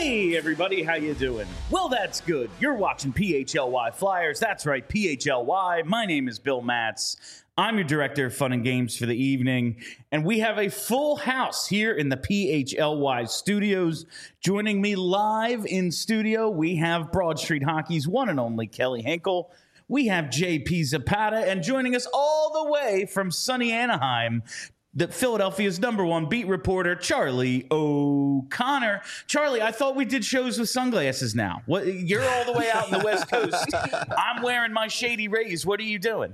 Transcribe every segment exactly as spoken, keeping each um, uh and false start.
Hey everybody, how you doing? Well, that's good. You're watching P H L Y Flyers. That's right, P H L Y. My name is Bill Matz. I'm your director of fun and games for the evening, and we have a full house here in the P H L Y studios. Joining me live in studio, we have Broad Street Hockey's one and only Kelly Hinkle. We have J P Zapata, and joining us all the way from sunny Anaheim, the Philadelphia's number one beat reporter, Charlie O'Connor. Charlie, I thought we did shows with sunglasses now. What, you're all the way out in the West Coast. I'm wearing my Shady Rays. What are you doing?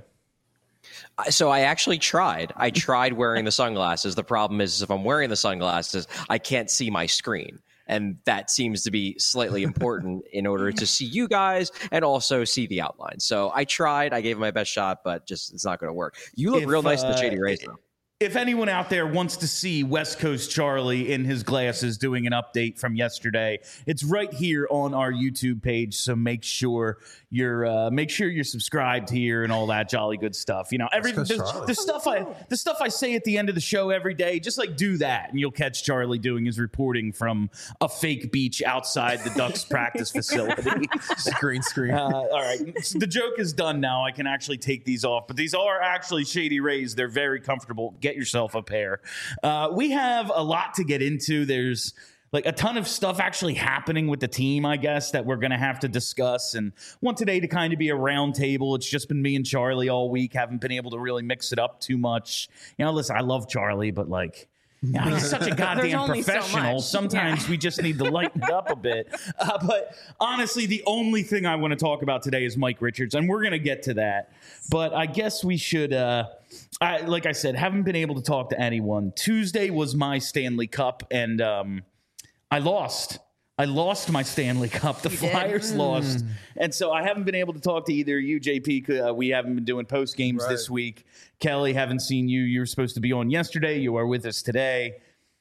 So I actually tried. I tried wearing the sunglasses. The problem is if I'm wearing the sunglasses, I can't see my screen. And that seems to be slightly important in order to see you guys and also see the outline. So I tried. I gave it my best shot, but just it's not going to work. You look if, real nice uh, in the Shady Rays, though. If anyone out there wants to see West Coast Charlie in his glasses doing an update from yesterday, it's right here on our YouTube page. So make sure you're uh, make sure you're subscribed here and all that jolly good stuff. You know, every the, the stuff I the stuff I say at the end of the show every day. Just like do that, and you'll catch Charlie doing his reporting from a fake beach outside the Ducks practice facility. Green screen. Uh, all right, so the joke is done now. I can actually take these off, but these are actually Shady Rays. They're very comfortable. Get yourself a pair. Uh, we have a lot to get into. There's like a ton of stuff actually happening with the team, I guess, that we're going to have to discuss. And want today to kind of be a round table. It's just been me and Charlie all week. Haven't been able to really mix it up too much. You know, listen, I love Charlie, but like, you know, he's such a goddamn professional. So Sometimes yeah. we just need to lighten it up a bit. Uh, but honestly, the only thing I want to talk about today is Mike Richards, and we're going to get to that. But I guess we should, uh, I, like I said, haven't been able to talk to anyone. Tuesday was my Stanley Cup, and um, I lost. I lost my Stanley Cup. The you Flyers did? lost. Mm. And so I haven't been able to talk to either you, J P. Uh, we haven't been doing post games right. this week. Kelly, haven't seen you. You were supposed to be on yesterday. You are with us today.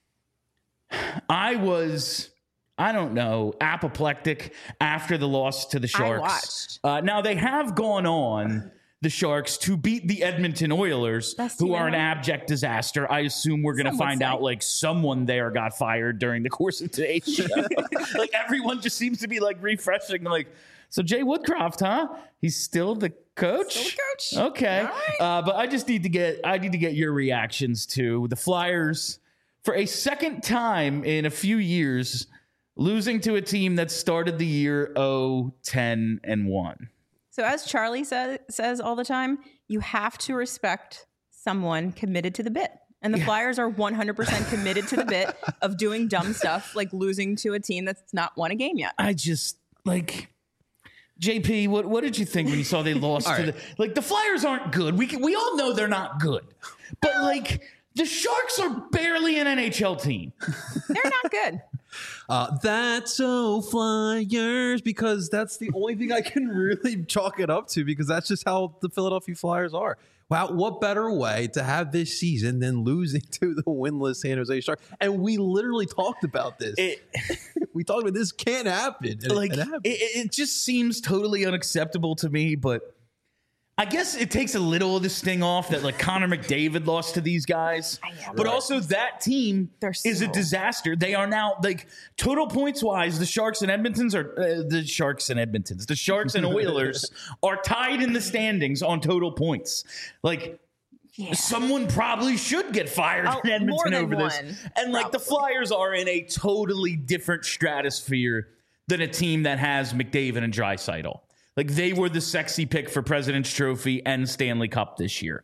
I was, I don't know, apoplectic after the loss to the Sharks. I watched. Uh, now, they have gone on, the Sharks, to beat the Edmonton Oilers, Best who team are an ever. abject disaster. I assume we're going to Some would find say. out, like, someone there got fired during the course of today's show. Like, everyone just seems to be, like, refreshing. Like, so Jay Woodcroft, huh? He's still the coach? Still the coach. Okay. All right. Uh, but I just need to get, I need to get your reactions to the Flyers, for a second time in a few years, losing to a team that started the year oh, ten, and one. So as Charlie sa- says all the time, you have to respect someone committed to the bit. And the Yeah. Flyers are one hundred percent committed to the bit of doing dumb stuff like losing to a team that's not won a game yet. I just, like, J P, what, what did you think when you saw they lost All to right. the... Like, the Flyers aren't good. We can, we all know they're not good. But, like, the Sharks are barely an N H L team. They're not good. Uh, that's so Flyers, because that's the only thing I can really chalk it up to, because that's just how the Philadelphia Flyers are. Wow, what better way to have this season than losing to the winless San Jose Sharks? And we literally talked about this. It, we talked about this can't happen. And like, it, it, happened. it just seems totally unacceptable to me, but I guess it takes a little of the sting off that, like, Connor McDavid lost to these guys. But also that team They're is a so- disaster. They are now, like, total points wise, the Sharks and Edmontons are uh, the Sharks and Edmontons. The Sharks and Oilers are tied in the standings on total points. Like, Yeah. someone probably should get fired Oh, in Edmonton more than over this. one, And, like, the probably. Flyers are in a totally different stratosphere than a team that has McDavid and Draisaitl. Like, they were the sexy pick for President's Trophy and Stanley Cup this year.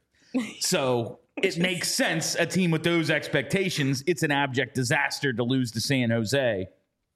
So it makes sense, a team with those expectations, it's an abject disaster to lose to San Jose.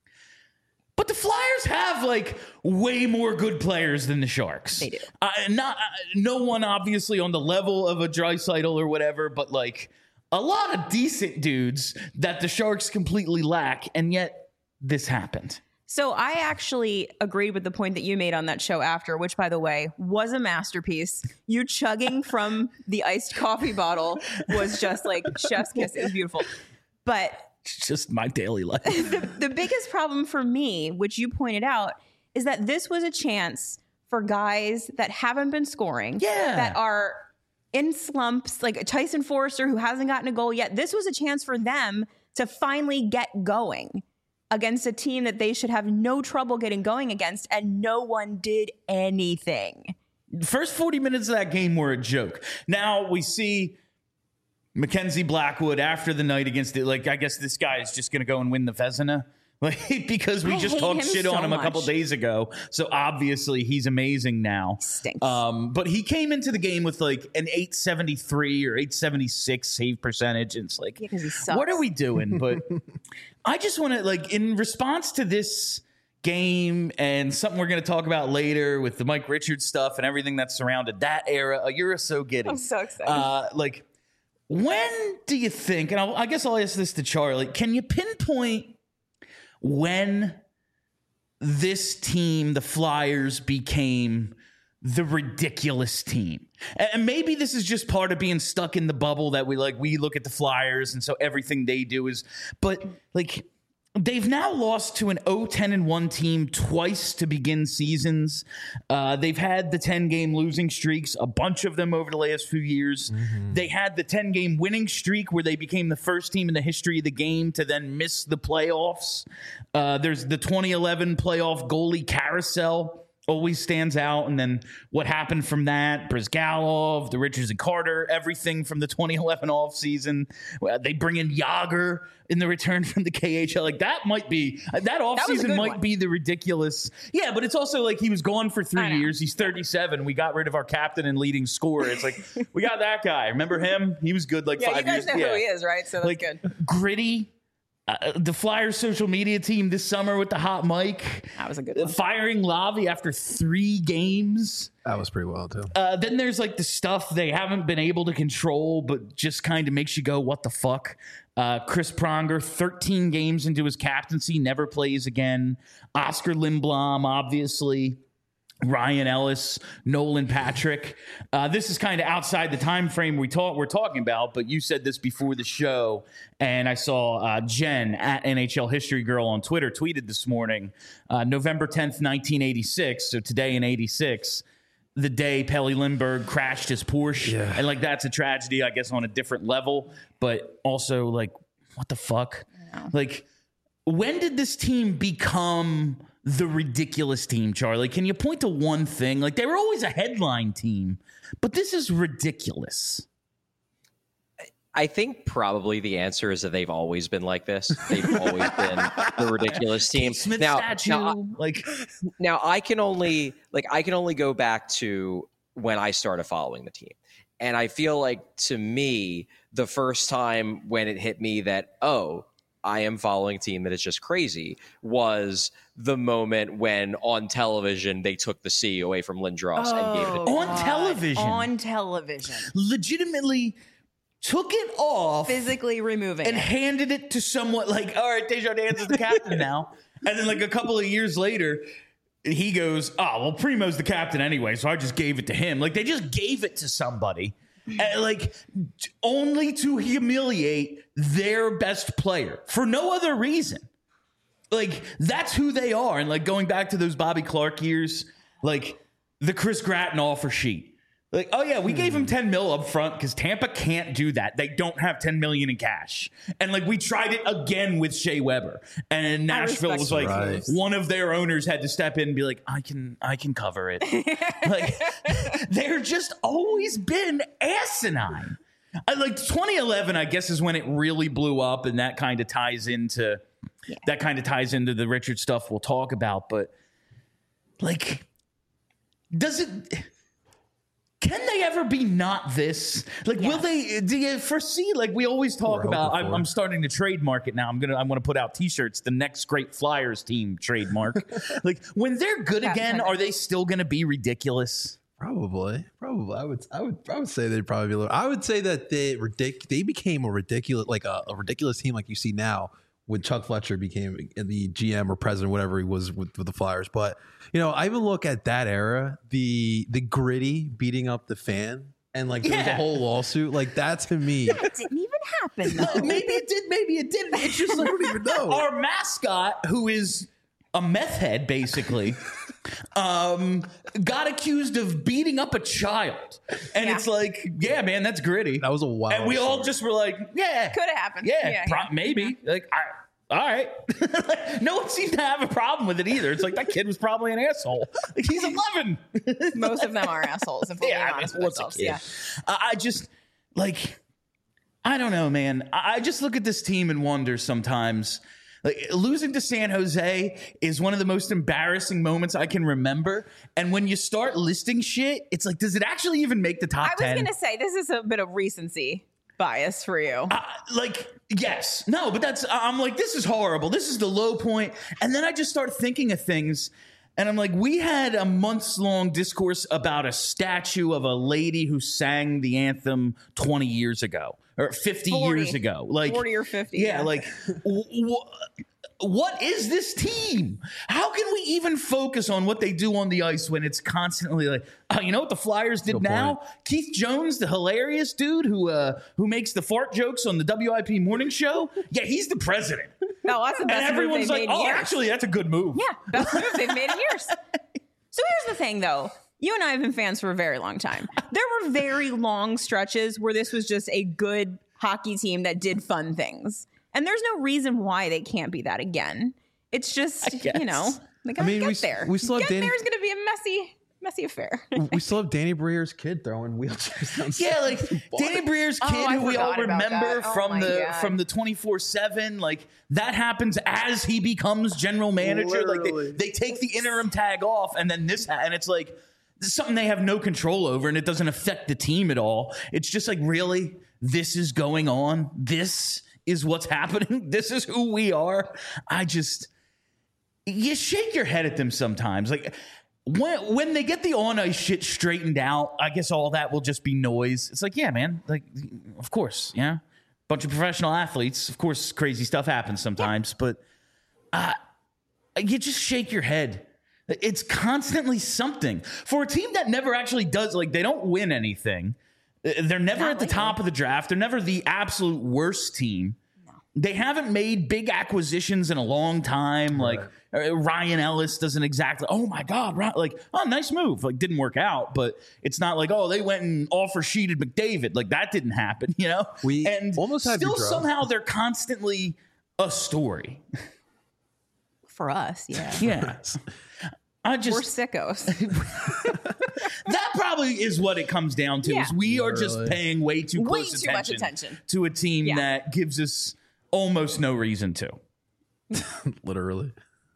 But the Flyers have, like, way more good players than the Sharks. They do. Uh, not uh, no one, obviously, on the level of a Draisaitl or whatever, but, like, a lot of decent dudes that the Sharks completely lack, and yet this happened. So I actually agreed with the point that you made on that show after, which, by the way, was a masterpiece. You chugging from the iced coffee bottle was just like chef's kiss. It was beautiful. But It's just my daily life. the, the biggest problem for me, which you pointed out, is that this was a chance for guys that haven't been scoring, Yeah. that are in slumps, like Tyson Forrester, who hasn't gotten a goal yet. This was a chance for them to finally get going. against a team that they should have no trouble getting going against, and no one did anything. The first forty minutes of that game were a joke. Now we see Mackenzie Blackwood after the night against it. Like, I guess this guy is just going to go and win the Vezina. Like, because we I just hate talked him shit so on him a couple much. days ago. So obviously he's amazing now. Stinks. Um, but he came into the game with like an eight seventy-three or eight seventy-six save percentage. And it's like, Yeah, 'cause he sucks. what are we doing? But I just want to, like, in response to this game and something we're going to talk about later with the Mike Richards stuff and everything that surrounded that era, a year or so getting. I'm so excited. Uh, like, when do you think, and I'll, I guess I'll ask this to Charlie, can you pinpoint when this team, the Flyers, became the ridiculous team? And maybe this is just part of being stuck in the bubble that we like, we look at the Flyers and so everything they do is, but like, they've now lost to an oh ten and one team twice to begin seasons. Uh, they've had the ten-game losing streaks, a bunch of them over the last few years. Mm-hmm. They had the ten-game winning streak where they became the first team in the history of the game to then miss the playoffs. Uh, there's the twenty eleven playoff goalie carousel. Always stands out. And then what happened from that, Brizgalov, the Richards and Carter, everything from the twenty eleven offseason. Well, they bring in Yager in the return from the K H L. Like, that might be, that offseason might one. be the ridiculous. Yeah, but it's also like he was gone for three years. He's thirty-seven. We got rid of our captain and leading scorer. It's like, we got that guy. Remember him? He was good like yeah, five you guys years. know yeah. who he is, right? So that's like, good. Gritty. Uh, the Flyers social media team this summer with the hot mic. That was a good one. Firing Lavi after three games. That was pretty well, too. Uh, then there's like the stuff they haven't been able to control, but just kind of makes you go, what the fuck? Uh, Chris Pronger, thirteen games into his captaincy, never plays again. Oscar Lindblom, obviously. Ryan Ellis, Nolan Patrick. Uh, this is kind of outside the time frame we talk, we're talking about, but you said this before the show, and I saw uh, Jen at N H L History Girl on Twitter tweeted this morning, uh, November tenth, nineteen eighty-six, so today in eighty-six, the day Pelle Lindbergh crashed his Porsche. Yeah. And, like, that's a tragedy, I guess, on a different level, but also, like, what the fuck? Like, when did this team become the ridiculous team, Charlie? Can you point to one thing? Like, they were always a headline team, but this is ridiculous. I think probably the answer is that they've always been like this. They've always been the ridiculous team. Smith now, statue, now, like, now I can only like I can only go back to when I started following the team. And I feel like, to me, the first time when it hit me that, oh, I am following a team that is just crazy, was the moment when on television they took the C away from Lindros Oh, and gave it to on God. television, On television. legitimately took it off Physically removing and it. handed it to someone like, all right, Desjardins is the captain now. And then like a couple of years later, he goes, oh, well, Primo's the captain anyway, so I just gave it to him. Like, they just gave it to somebody. And, like, only to humiliate their best player for no other reason. Like, that's who they are. And, like, going back to those Bobby Clark years, like, the Chris Gratton offer sheet. Like, oh, yeah, we gave him ten mil up front because Tampa can't do that. They don't have ten million in cash. And, like, we tried it again with Shea Weber. And Nashville was like, Right. one of their owners had to step in and be like, I can, I can cover it. Like, they're just always been asinine. I, like, twenty eleven, I guess, is when it really blew up. And that kind of ties into, Yeah. that kind of ties into the Richard stuff we'll talk about. But, like, does it... Can they ever be not this? Like, Yes. will they? Do you foresee? Like, we always talk We're about. hoping I'm, for I'm it. starting to trademark it now. I'm gonna. I'm gonna put out T-shirts. The next great Flyers team trademark. Like, when they're good Patent again, pending. are they still gonna be ridiculous? Probably, probably. I would, I would, I would say they'd probably be a little. I would say that they ridic- They became a ridiculous, like a, a ridiculous team, like you see now when Chuck Fletcher became the G M or president, whatever he was with, with the Flyers. But you know, I even look at that era, the the gritty beating up the fan, and like there was a Yeah. whole lawsuit. Like that to me, It didn't even happen, though. Maybe it did. Maybe it didn't. It's just like, I don't even know. our mascot, who is a meth head, basically, um, got accused of beating up a child, and Yeah. it's like, yeah, man, that's gritty. That was a wild And we all story. just were like, yeah, Could have happened. Yeah, Yeah, pro- yeah. maybe. Like, I, all right. No one seems to have a problem with it either. It's like that kid was probably an asshole. Like, he's eleven. Most of them are assholes. If we're Yeah, being I mean, honest with what's a ourselves. kid? Yeah. Uh, I just like, I don't know, man. I, I just look at this team and wonder sometimes. Like, losing to San Jose is one of the most embarrassing moments I can remember. And when you start listing shit, it's like, does it actually even make the top I was ten? going to say, this is a bit of recency bias for you. Uh, like, yes. No, but that's, I'm like, this is horrible. This is the low point. And then I just start thinking of things. And I'm like, we had a months long discourse about a statue of a lady who sang the anthem twenty years ago or fifty forty years ago. Like forty or fifty. Yeah. Yeah. Like, w- w- what is this team? How can we even focus on what they do on the ice when it's constantly like, oh, you know what the Flyers did Good now? point. Keith Jones, the hilarious dude who uh, who makes the fart jokes on the W I P morning show. Yeah, he's the president. No, that's the And best move everyone's they've like, made in oh, years. actually, that's a good move. Yeah, best move they've made in years. So here's the thing, though. You and I have been fans for a very long time. There were very long stretches where this was just a good hockey team that did fun things. And there's no reason why they can't be that again. It's just, you know, they gotta I mean, get we- there. we still have Getting Danny- there is going to be a messy, messy affair. We still have Danny Brier's kid throwing wheelchairs down. Yeah, like Danny Brier's Oh, kid, I who we all forgot about remember that. Oh from my the God. from the twenty-four seven. Like that happens as he becomes general manager. Like Literally. they, they take the interim tag off, and then this, ha- and it's like this is something they have no control over, and it doesn't affect the team at all. It's just like, really, this is going on. This is what's happening. This is who we are. I just. You shake your head at them sometimes. Like when when they get the on ice shit straightened out, I guess all that will just be noise. It's like, yeah, man. Like, of course, yeah. Bunch of professional athletes. Of course, crazy stuff happens sometimes, but uh, you just shake your head. It's constantly something for a team that never actually does. Like, they don't win anything. They're never Not at the lately. top of the draft. They're never the absolute worst team. They haven't made big acquisitions in a long time. Like uh, Ryan Ellis doesn't exactly. Oh my God! Right, like, oh, nice move. Like, didn't work out, but it's not like, oh, they went and offer sheeted McDavid. Like, that didn't happen. You know, We and almost had still Gaudreau. somehow they're constantly a story. For us, yeah. Yeah, I We're just sickos. that probably is what it comes down to. Yeah. Is we are just Literally. paying way too Way close too much attention, attention. to a team Yeah. that gives us almost no reason to. Literally.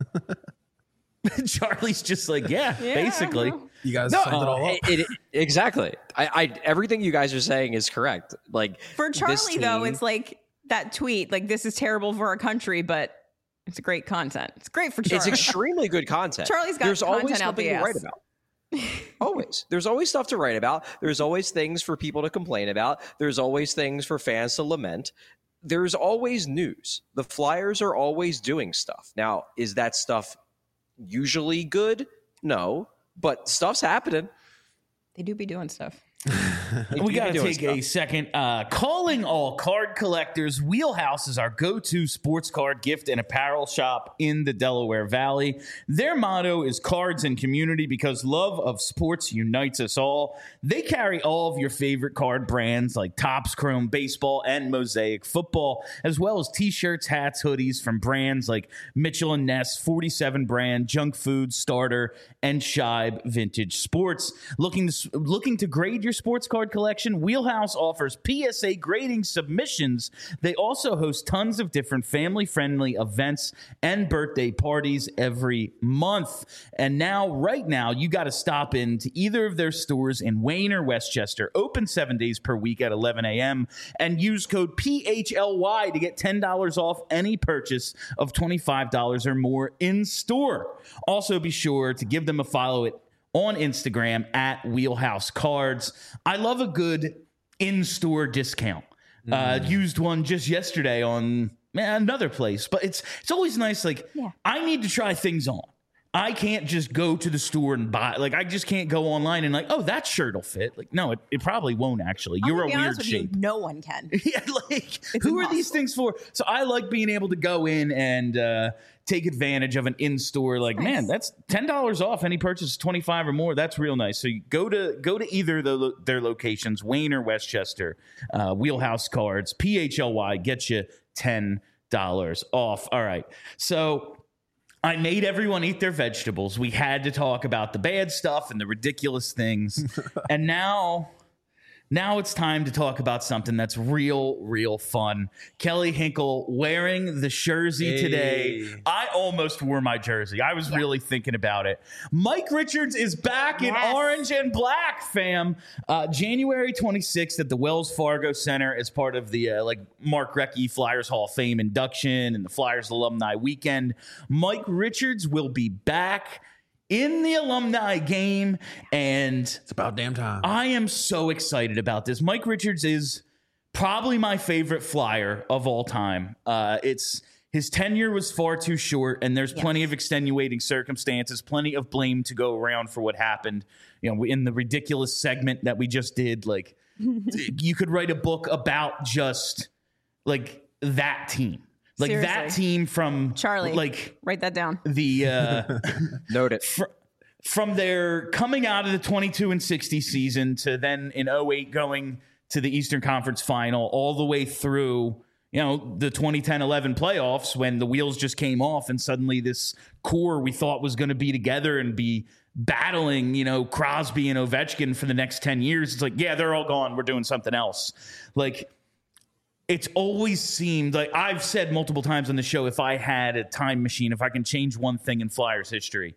Charlie's just like, yeah, Yeah, basically. well. You guys No, summed it all up. it, it, exactly. I, I everything you guys are saying is correct. Like For this Charlie, though, team- it's like that tweet, like, this is terrible for our country, but it's great content. It's great for Charlie. it's extremely good content. Charlie's got There's always content out something the to write ass. about. Always. There's always stuff to write about. There's always things for people to complain about. There's always things for fans to lament. There's always news. The Flyers are always doing stuff. Now, is that stuff usually good? No, but stuff's happening. They do be doing stuff. They We do got be to doing take a stuff. second. Uh, calling all card collectors, Wheelhouse is our go-to sports card gift and apparel shop in the Delaware Valley. Their motto is cards and community because love of sports unites us all. They carry all of your favorite card brands like Topps Chrome Baseball and Mosaic Football, as well as t-shirts, hats, hoodies from brands like Mitchell and Ness, forty-seven brand, Junk Food, Starter, and Shibe Vintage Sports. Looking to, looking to grade your sports card collection, Wheelhouse offers P S A grading submissions. They also host tons of different family-friendly events and birthday parties every month. And now, right now, you got to stop in to either of their stores in Wayne or Westchester, open seven days per week at eleven a.m., and use code P H L Y to get ten dollars off any purchase of twenty-five dollars or more in store. Also, be sure to give them a follow at on Instagram at Wheelhouse Cards. I love a good in-store discount. Uh, used one just yesterday on man, another place, but it's it's always nice. Like, Yeah. I need to try things on. I can't just go to the store and buy. Like, I just can't go online and like, oh, that shirt will fit. Like, no, it, it probably won't actually. I'm You're gonna a be weird honest with shape. You, no one can. Yeah, like It's who are these impossible. things for? So I like being able to go in and uh, take advantage of an in-store. Like, Nice. man, that's ten dollars off any purchase twenty-five or more. That's real nice. So you go to go to either of the, their locations, Wayne or Westchester. Uh, Wheelhouse Cards, P H L Y, get you ten dollars off. All right. So I made everyone eat their vegetables. We had to talk about the bad stuff and the ridiculous things. And now... Now it's time to talk about something that's real, real fun. Kelly Hinkle wearing the jersey Hey. today. I almost wore my jersey. I was yeah. really thinking about it. Mike Richards is back yes. in orange and black, fam. Uh, January twenty-sixth at the Wells Fargo Center as part of the uh, like Mark Recchi Flyers Hall of Fame induction and the Flyers Alumni Weekend. Mike Richards will be back in the alumni game, and it's about damn time. I am so excited about this. Mike Richards is probably my favorite Flyer of all time. Uh, it's his tenure was far too short, and there's yes. plenty of extenuating circumstances, plenty of blame to go around for what happened. You know, in the ridiculous segment that we just did, like you could write a book about just like that team. Like Seriously. That team from Charlie, like write that down. The uh, note it fr- from their coming out of the twenty-two and sixty season to then in oh eight going to the Eastern Conference Final, all the way through, you know, the twenty ten eleven playoffs when the wheels just came off and suddenly this core we thought was going to be together and be battling, you know, Crosby and Ovechkin for the next ten years. It's like, yeah, they're all gone. We're doing something else. Like. It's always seemed like I've said multiple times on the show, if I had a time machine, if I can change one thing in Flyers history,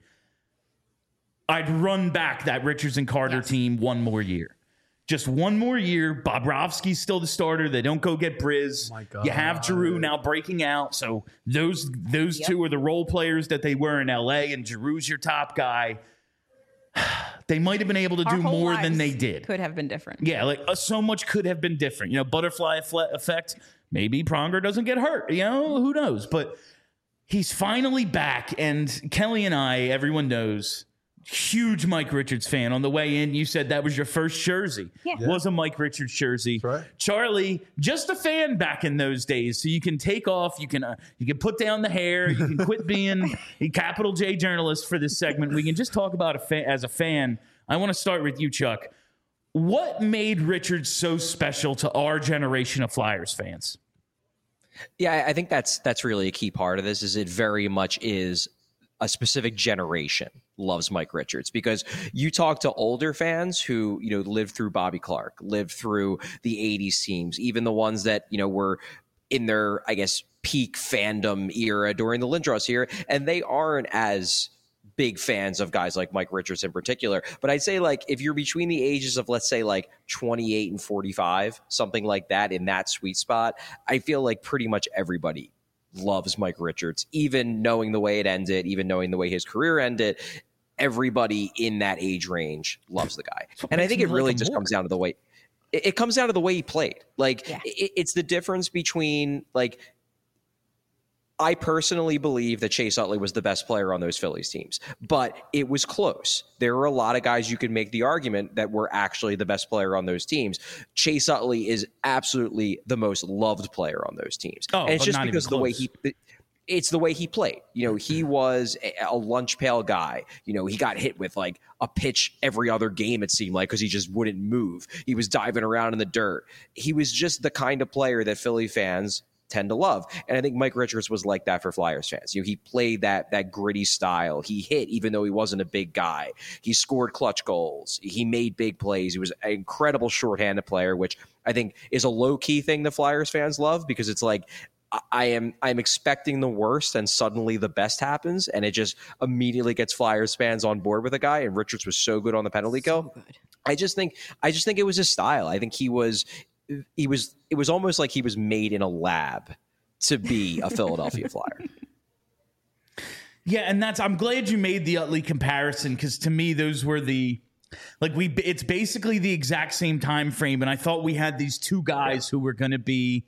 I'd run back that Richards and Carter yes. team one more year. Just one more year. Bobrovsky's still the starter. They don't go get Briz. Oh you have Giroux now breaking out. So those those yep. two are the role players that they were in L A, and Giroux's your top guy. They might have been able to Our do more than they did. Could have been different. Yeah, like uh, so much could have been different. You know, butterfly effect. Maybe Pronger doesn't get hurt. You know, who knows? But he's finally back. And Kelly and I, everyone knows, huge Mike Richards fan. On the way in, you said that was your first jersey. Yeah. yeah. Was a Mike Richards jersey. That's right. Charlie, just a fan back in those days. So you can take off, you can uh, you can put down the hair, you can quit being a capital J journalist for this segment. We can just talk about a fan as a fan. I want to start with you, Chuck. What made Richards so special to our generation of Flyers fans? Yeah, I think that's that's really a key part of this. Is it very much is a specific generation loves Mike Richards, because you talk to older fans who, you know, lived through Bobby Clarke, lived through the eighties teams, even the ones that, you know, were in their, I guess, peak fandom era during the Lindros era, and they aren't as big fans of guys like Mike Richards in particular. But I'd say, like, if you're between the ages of, let's say, like twenty-eight and forty-five, something like that, in that sweet spot, I feel like pretty much everybody loves Mike Richards, even knowing the way it ended, even knowing the way his career ended. Everybody in that age range loves the guy. And I think it really just comes down to the way it, it comes down to the way he played. Like yeah. it, it's the difference between, like, I personally believe that Chase Utley was the best player on those Phillies teams, but it was close. There were a lot of guys you could make the argument that were actually the best player on those teams. Chase Utley is absolutely the most loved player on those teams. Oh, and it's just because of the way he it's the way he played. You know, he was a, a lunch pail guy. You know, he got hit with like a pitch every other game, it seemed like, because he just wouldn't move. He was diving around in the dirt. He was just the kind of player that Philly fans tend to love. And I think Mike Richards was like that for Flyers fans. You know, he played that that gritty style. He hit even though he wasn't a big guy. He scored clutch goals. He made big plays. He was an incredible shorthanded player, which I think is a low-key thing the Flyers fans love, because it's like, I am I'm expecting the worst and suddenly the best happens, and it just immediately gets Flyers fans on board with a guy. And Richards was so good on the penalty kill. So I just think I just think it was his style. I think he was he was it was almost like he was made in a lab to be a Philadelphia Flyer. Yeah, and that's I'm glad you made the Utley comparison, because to me those were the like we it's basically the exact same time frame, and I thought we had these two guys yeah. who were going to be.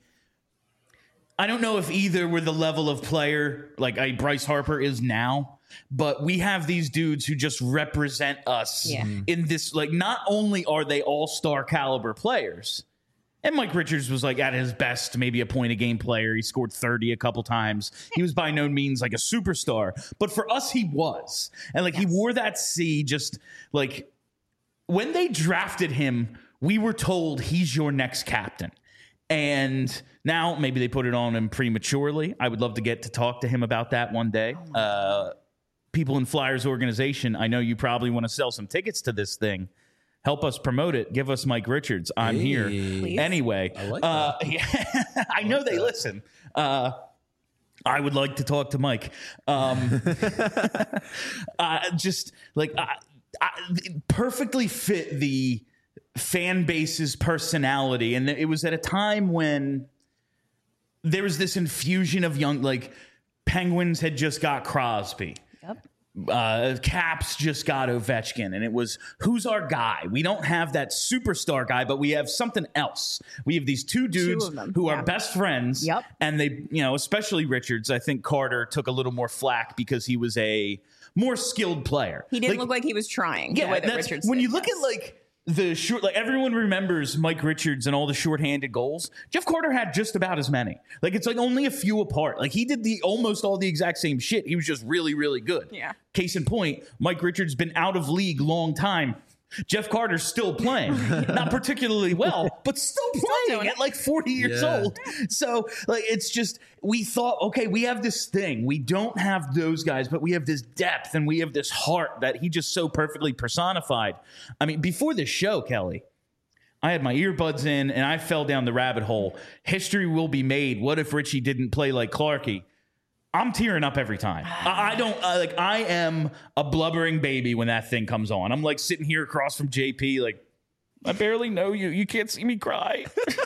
I don't know if either were the level of player like a Bryce Harper is now, but we have these dudes who just represent us yeah. in this. Like, not only are they all-star caliber players, and Mike Richards was like at his best, maybe a point a game player. He scored thirty a couple times. He was by no means like a superstar, but for us, he was. And like yes. he wore that C just like when they drafted him, we were told he's your next captain. And now maybe they put it on him prematurely. I would love to get to talk to him about that one day. Uh, people in Flyers organization, I know you probably want to sell some tickets to this thing. Help us promote it. Give us Mike Richards. I'm Hey. here. Please. Anyway, I like uh, yeah, I know they listen. Uh, I would like to talk to Mike. Um, uh, just like I, I, perfectly fit the fan base's personality. And it was at a time when there was this infusion of young, like Penguins had just got Crosby. Yep. Uh, Caps just got Ovechkin, and it was, who's our guy? We don't have that superstar guy, but we have something else. We have these two dudes of them, who yeah. are best friends. Yep. And they, you know, especially Richards. I think Carter took a little more flack because he was a more skilled player. He didn't Like, look like he was trying. yeah, the way that that's- Richards when did, you look yes. at like the short, like everyone remembers Mike Richards and all the shorthanded goals. Jeff Carter had just about as many. Like it's like only a few apart. Like he did the almost all the exact same shit. He was just really, really good. Yeah. Case in point, Mike Richards been out of league long time. Jeff Carter's still playing, not particularly well, but still playing doing at it. like forty years Yeah. old. So like it's just, we thought, okay, we have this thing. We don't have those guys, but we have this depth and we have this heart that he just so perfectly personified. I mean, before this show, Kelly, I had my earbuds in and I fell down the rabbit hole. History will be made. What if Richie didn't play like Clarkie? I'm tearing up every time. I, I don't uh, like. I am a blubbering baby when that thing comes on. I'm like sitting here across from J P, like I barely know you. You can't see me cry.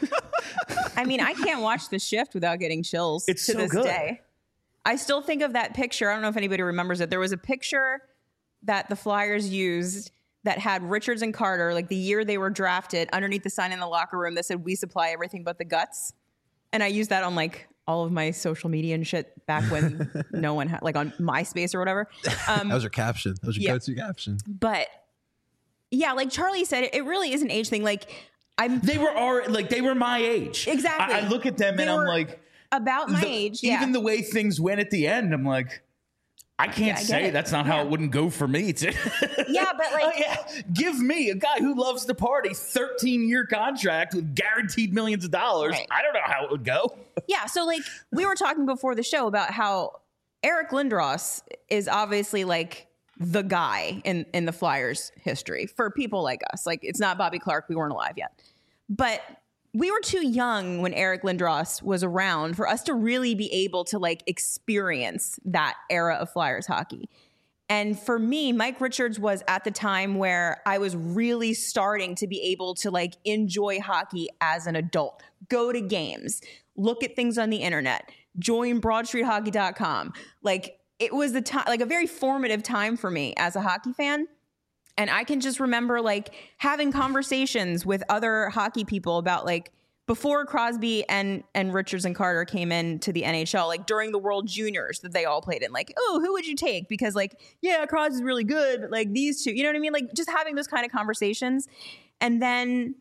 I mean, I can't watch The Shift without getting chills It's to so this good. day. I still think of that picture. I don't know if anybody remembers it. There was a picture that the Flyers used that had Richards and Carter, like the year they were drafted, underneath the sign in the locker room that said, "We supply everything but the guts." And I used that on like all of my social media and shit back when no one had, like on MySpace or whatever. Um, That was your caption. That was your Yeah. go-to caption. but yeah, like Charlie said, it, it really is an age thing. Like I'm They were already, like they were my age. Exactly. I, I look at them They and I'm were like, about my the- age. Yeah. even the way things went at the end, I'm like, I can't Yeah, I get say it. that's not how it wouldn't go for me. Too. yeah, but like Oh, yeah. Give me a guy who loves to party, thirteen year contract with guaranteed millions of dollars. Right. I don't know how it would go. Yeah, so like we were talking before the show about how Eric Lindros is obviously like the guy in in the Flyers history for people like us. Like it's not Bobby Clark, we weren't alive yet. But we were too young when Eric Lindros was around for us to really be able to like experience that era of Flyers hockey. And for me, Mike Richards was at the time where I was really starting to be able to like enjoy hockey as an adult, go to games, look at things on the internet, join broad street hockey dot com. Like it was the time, like a very formative time for me as a hockey fan. And I can just remember like having conversations with other hockey people about like before Crosby and and Richards and Carter came into the N H L, like during the World Juniors that they all played in, like, oh, who would you take? Because like, yeah, Crosby's really good, but like these two, you know what I mean? Like just having those kind of conversations. And then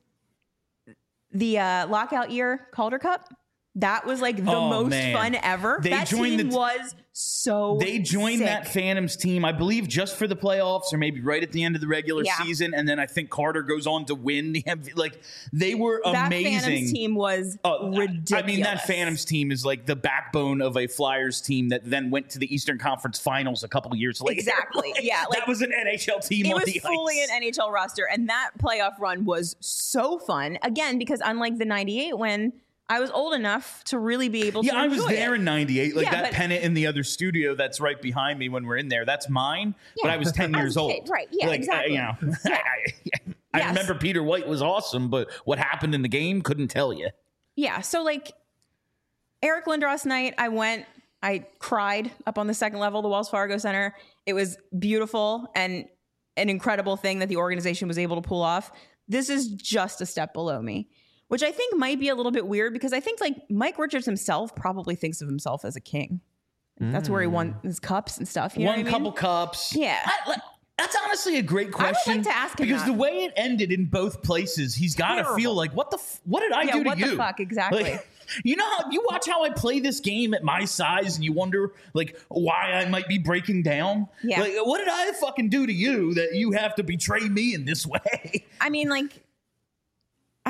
the uh, lockout year Calder Cup, that was like the Oh, most man. fun ever. They that joined team the- was so They joined sick. that Phantoms team, I believe, just for the playoffs or maybe right at the end of the regular Yeah. season. And then I think Carter goes on to win the M V P. Like they were That amazing. Phantoms team was Oh, I- ridiculous. I mean, that Phantoms team is like the backbone of a Flyers team that then went to the Eastern Conference Finals a couple of years later. Exactly. Like, Yeah, like- that was an N H L team It on was the fully ice. an N H L roster, and that playoff run was so fun. Again, because unlike the ninety-eight when I was old enough to really be able to Yeah, I was enjoy there it. in ninety-eight. Like Yeah, that but- pennant in the other studio that's right behind me when we're in there. That's mine, but Yeah. I was ten As a years kid, old. right, yeah, like, exactly. I, you know, I, I, I Yes. remember Peter White was awesome, but what happened in the game, couldn't tell you. Yeah, so like Eric Lindros night, I went, I cried up on the second level of the Wells Fargo Center. It was beautiful and an incredible thing that the organization was able to pull off. This is just a step below me, which I think might be a little bit weird because I think like Mike Richards himself probably thinks of himself as a king. That's where he won his cups and stuff. You know Won what a I mean? couple cups. Yeah. I- like, that's honestly a great question. to ask him because that. the way it ended in both places, he's got to Terrible. feel like, what the, f- what did I Yeah, do to what the you? fuck, exactly. Like, you know how you watch how I play this game at my size, and you wonder like why I might be breaking down. Yeah. Like, what did I fucking do to you that you have to betray me in this way? I mean, like, I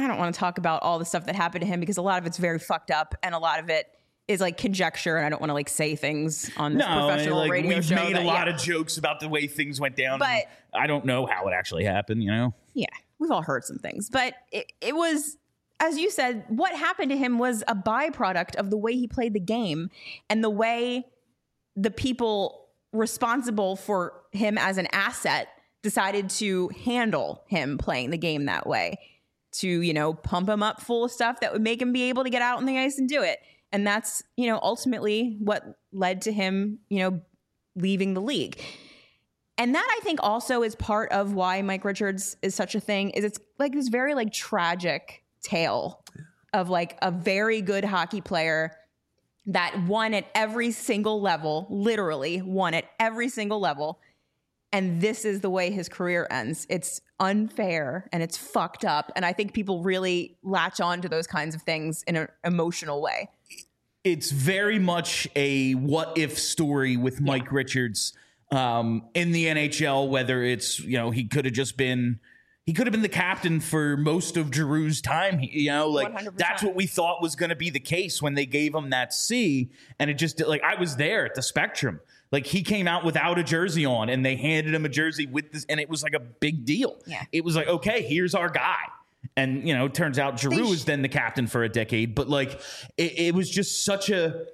I don't want to talk about all the stuff that happened to him because a lot of it's very fucked up and a lot of it is like conjecture, and I don't want to like say things on this no, professional like, radio we've show. made that, a lot yeah. of jokes about the way things went down. But- and I don't know how it actually happened, you know? Yeah, we've all heard some things, but it, it was, as you said, what happened to him was a byproduct of the way he played the game and the way the people responsible for him as an asset decided to handle him playing the game that way, to, you know, pump him up full of stuff that would make him be able to get out on the ice and do it. And that's, you know, ultimately what led to him, you know, leaving the league. And that I think also is part of why Mike Richards is such a thing, is it's like this very like tragic tale of like a very good hockey player that won at every single level, literally won at every single level. And this is the way his career ends. It's unfair and it's fucked up. And I think people really latch on to those kinds of things in an emotional way. It's very much a what if story with Mike yeah. Richards um, in the N H L, whether it's, you know, he could have just been, he could have been the captain for most of Giroux's time. You know, like one hundred percent. That's what we thought was going to be the case when they gave him that C. And it just like, I was there at the Spectrum. Like he came out without a jersey on and they handed him a jersey with this. And it was like a big deal. Yeah. It was like, okay, here's our guy. And, you know, it turns out Giroux was then the captain for a decade. But, like, it, it was just such a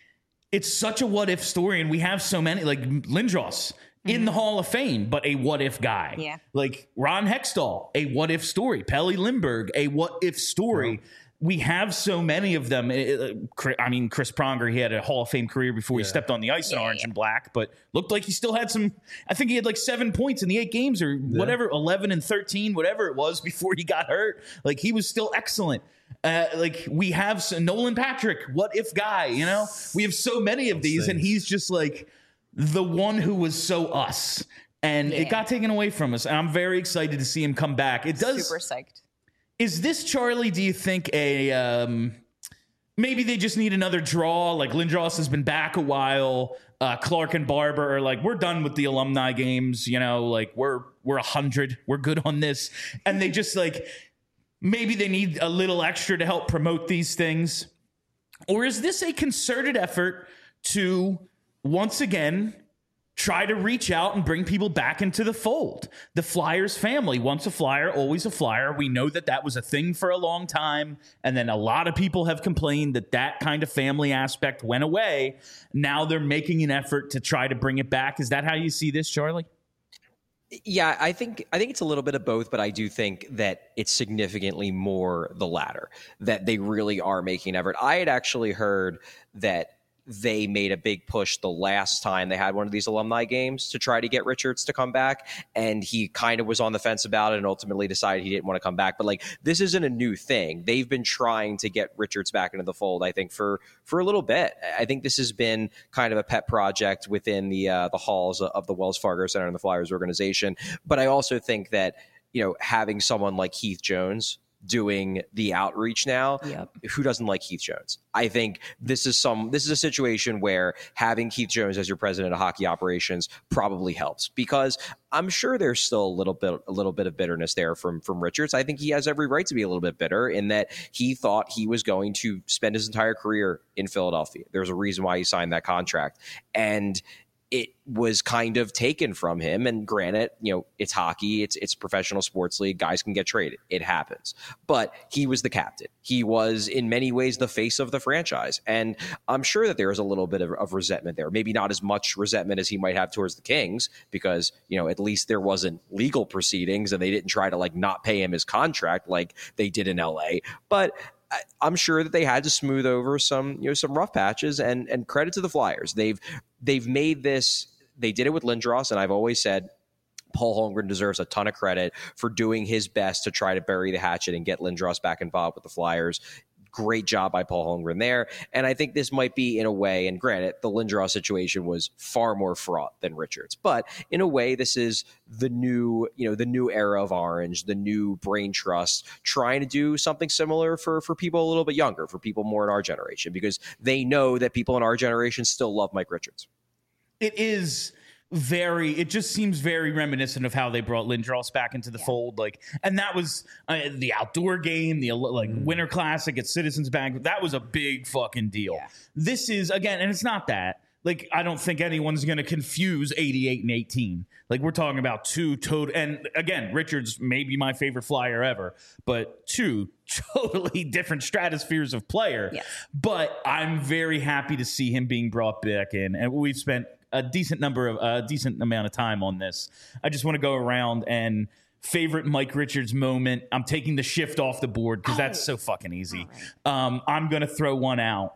– it's such a what-if story. And we have so many – like, Lindros mm-hmm. in the Hall of Fame, but a what-if guy. Yeah. Like, Ron Hextall, a what-if story. Pelle Lindbergh, a what-if story. Oh. We have so many of them. I mean, Chris Pronger, he had a Hall of Fame career before yeah. he stepped on the ice in yeah, orange yeah. and black, but looked like he still had some, I think he had like seven points in the eight games or yeah. whatever, eleven and thirteen, whatever it was before he got hurt. Like he was still excellent. Uh, like we have some, Nolan Patrick, what if guy, you know, we have so many of these and he's just like the one who was so us and yeah. it got taken away from us. And I'm very excited to see him come back. It does. Super psyched. Is this, Charlie, do you think a um, maybe they just need another draw? Like Lindros has been back a while. Uh, Clark and Barber are like, we're done with the alumni games. You know, like we're we're a hundred. We're good on this. And they just like maybe they need a little extra to help promote these things. Or is this a concerted effort to once again try to reach out and bring people back into the fold? The Flyers family, once a Flyer, always a Flyer. We know that that was a thing for a long time. And then a lot of people have complained that that kind of family aspect went away. Now they're making an effort to try to bring it back. Is that how you see this, Charlie? Yeah, I think I think it's a little bit of both, but I do think that it's significantly more the latter, that they really are making an effort. I had actually heard that they made a big push the last time they had one of these alumni games to try to get Richards to come back. And he kind of was on the fence about it and ultimately decided he didn't want to come back. But like, this isn't a new thing. They've been trying to get Richards back into the fold, I think, for, for a little bit. I think this has been kind of a pet project within the, uh, the halls of the Wells Fargo Center and the Flyers organization. But I also think that, you know, having someone like Heath Jones doing the outreach now, yep. who doesn't like Heath Jones? I think this is some this is a situation where having Heath Jones as your president of hockey operations probably helps, because I'm sure there's still a little bit a little bit of bitterness there from from Richards. I think he has every right to be a little bit bitter in that he thought he was going to spend his entire career in Philadelphia. There's a reason why he signed that contract, and it was kind of taken from him. And granted, you know, it's hockey, it's it's professional sports league. Guys can get traded. It happens. But he was the captain. He was in many ways the face of the franchise. And I'm sure that there is a little bit of, of resentment there. Maybe not as much resentment as he might have towards the Kings, because, you know, at least there wasn't legal proceedings and they didn't try to like not pay him his contract like they did in L A. But I'm sure that they had to smooth over some, you know, some rough patches, and and credit to the Flyers. They've they've made this. They did it with Lindros, and I've always said Paul Holmgren deserves a ton of credit for doing his best to try to bury the hatchet and get Lindros back involved with the Flyers. Great job by Paul Holmgren there. And I think this might be, in a way, and granted, the Lindros situation was far more fraught than Richards, but in a way, this is the new, you know, the new era of Orange, the new brain trust, trying to do something similar for, for people a little bit younger, for people more in our generation, because they know that people in our generation still love Mike Richards. It is very, it just seems very reminiscent of how they brought Lindros back into the yeah. fold. Like, and that was uh, the outdoor game, the like mm. Winter Classic at Citizens Bank. That was a big fucking deal. Yeah. This is, again, and it's not that. Like, I don't think anyone's going to confuse eighty-eight and eighteen. Like, we're talking about two total, and again, Richards may be my favorite Flyer ever, but two totally different stratospheres of player. Yes. But I'm very happy to see him being brought back in, and we've spent a decent number of a uh, decent amount of time on this. I just want to go around and favorite Mike Richards moment. I'm taking the shift off the board because oh. that's so fucking easy. Right. Um, I'm going to throw one out.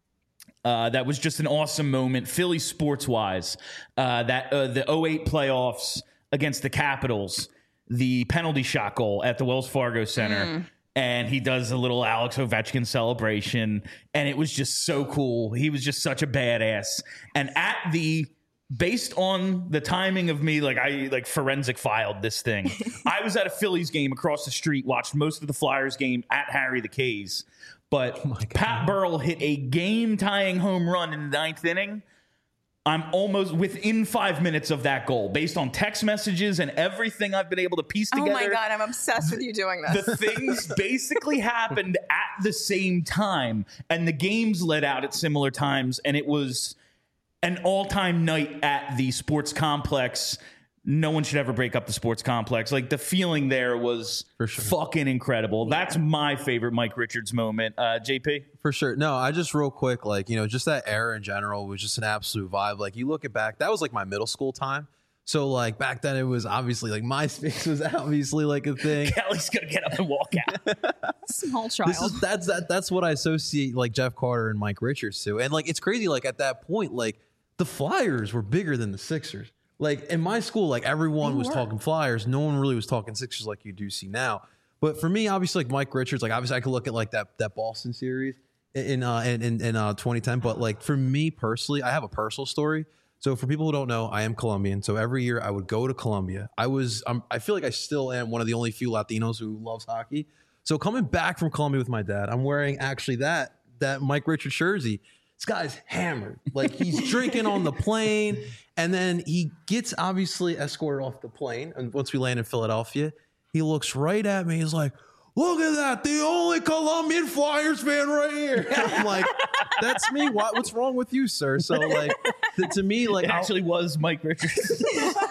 Uh, that was just an awesome moment, Philly sports wise. Uh, that uh, the oh eight playoffs against the Capitals, the penalty shot goal at the Wells Fargo Center. Mm. And he does a little Alex Ovechkin celebration. And it was just so cool. He was just such a badass. And at the, based on the timing of me, like I like forensic filed this thing. I was at a Phillies game across the street, watched most of the Flyers game at Harry the K's. But oh Pat Burrell hit a game-tying home run in the ninth inning. I'm almost within five minutes of that goal, based on text messages and everything I've been able to piece together. Oh my God, I'm obsessed with you doing this. The things basically happened at the same time, and the games let out at similar times, and it was an all-time night at the sports complex. No one should ever break up the sports complex. Like, the feeling there was For sure. fucking incredible. Yeah. That's my favorite Mike Richards moment. Uh, J P? For sure. No, I just real quick, like, you know, just that era in general was just an absolute vibe. Like, you look it back, that was like my middle school time. So, like, back then it was obviously like MySpace was obviously like a thing. Kelly's going to get up and walk out. Small child. This is, that's, that, that's what I associate like Jeff Carter and Mike Richards to. And like, it's crazy. Like, at that point, like, the Flyers were bigger than the Sixers. Like, in my school, like, everyone they was were. talking Flyers. No one really was talking Sixers like you do see now. But for me, obviously, like, Mike Richards, like, obviously, I could look at, like, that that Boston series in uh, in, in, in uh, twenty ten. But, like, for me personally, I have a personal story. So for people who don't know, I am Colombian. So every year I would go to Colombia. I was, um, I feel like I still am one of the only few Latinos who loves hockey. So coming back from Colombia with my dad, I'm wearing actually that that Mike Richards jersey. This guy's hammered. Like, he's drinking on the plane. And then he gets obviously escorted off the plane. And once we land in Philadelphia, he looks right at me. He's like, look at that. The only Colombian Flyers fan right here. And I'm like, that's me. What, what's wrong with you, sir? So, like, to, to me, like, it actually was Mike Richards.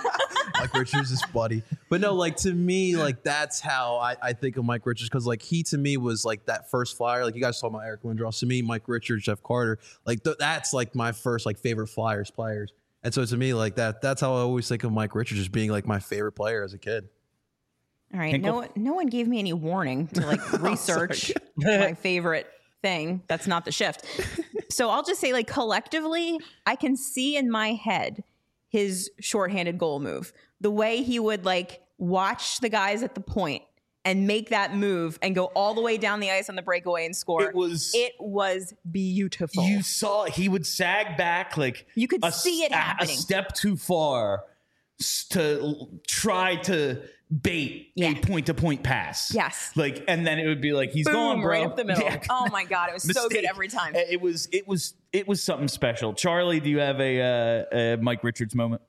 Mike Richards is buddy. But no, like, to me, like, that's how I, I think of Mike Richards. Because, like, he to me was like that first Flyer. Like, you guys talking about Eric Lindros. To me, Mike Richards, Jeff Carter, like, th- that's like my first like favorite Flyers players. And so to me, like, that that's how I always think of Mike Richards as being like my favorite player as a kid. All right. No, no one gave me any warning to like research my favorite thing. That's not the shift. So I'll just say, like, collectively, I can see in my head his shorthanded goal move. The way he would like watch the guys at the point and make that move and go all the way down the ice on the breakaway and score. It was it was beautiful. You saw he would sag back like you could a, see it happening. A step too far to try to bait yeah. a point-to-point pass. Yes. Like, and then it would be like, he's Boom, gone, bro. Right up the middle. Yeah. Oh my God. It was Mistake. so good every time. It was, it was, it was something special. Charlie, do you have a, uh, a Mike Richards moment?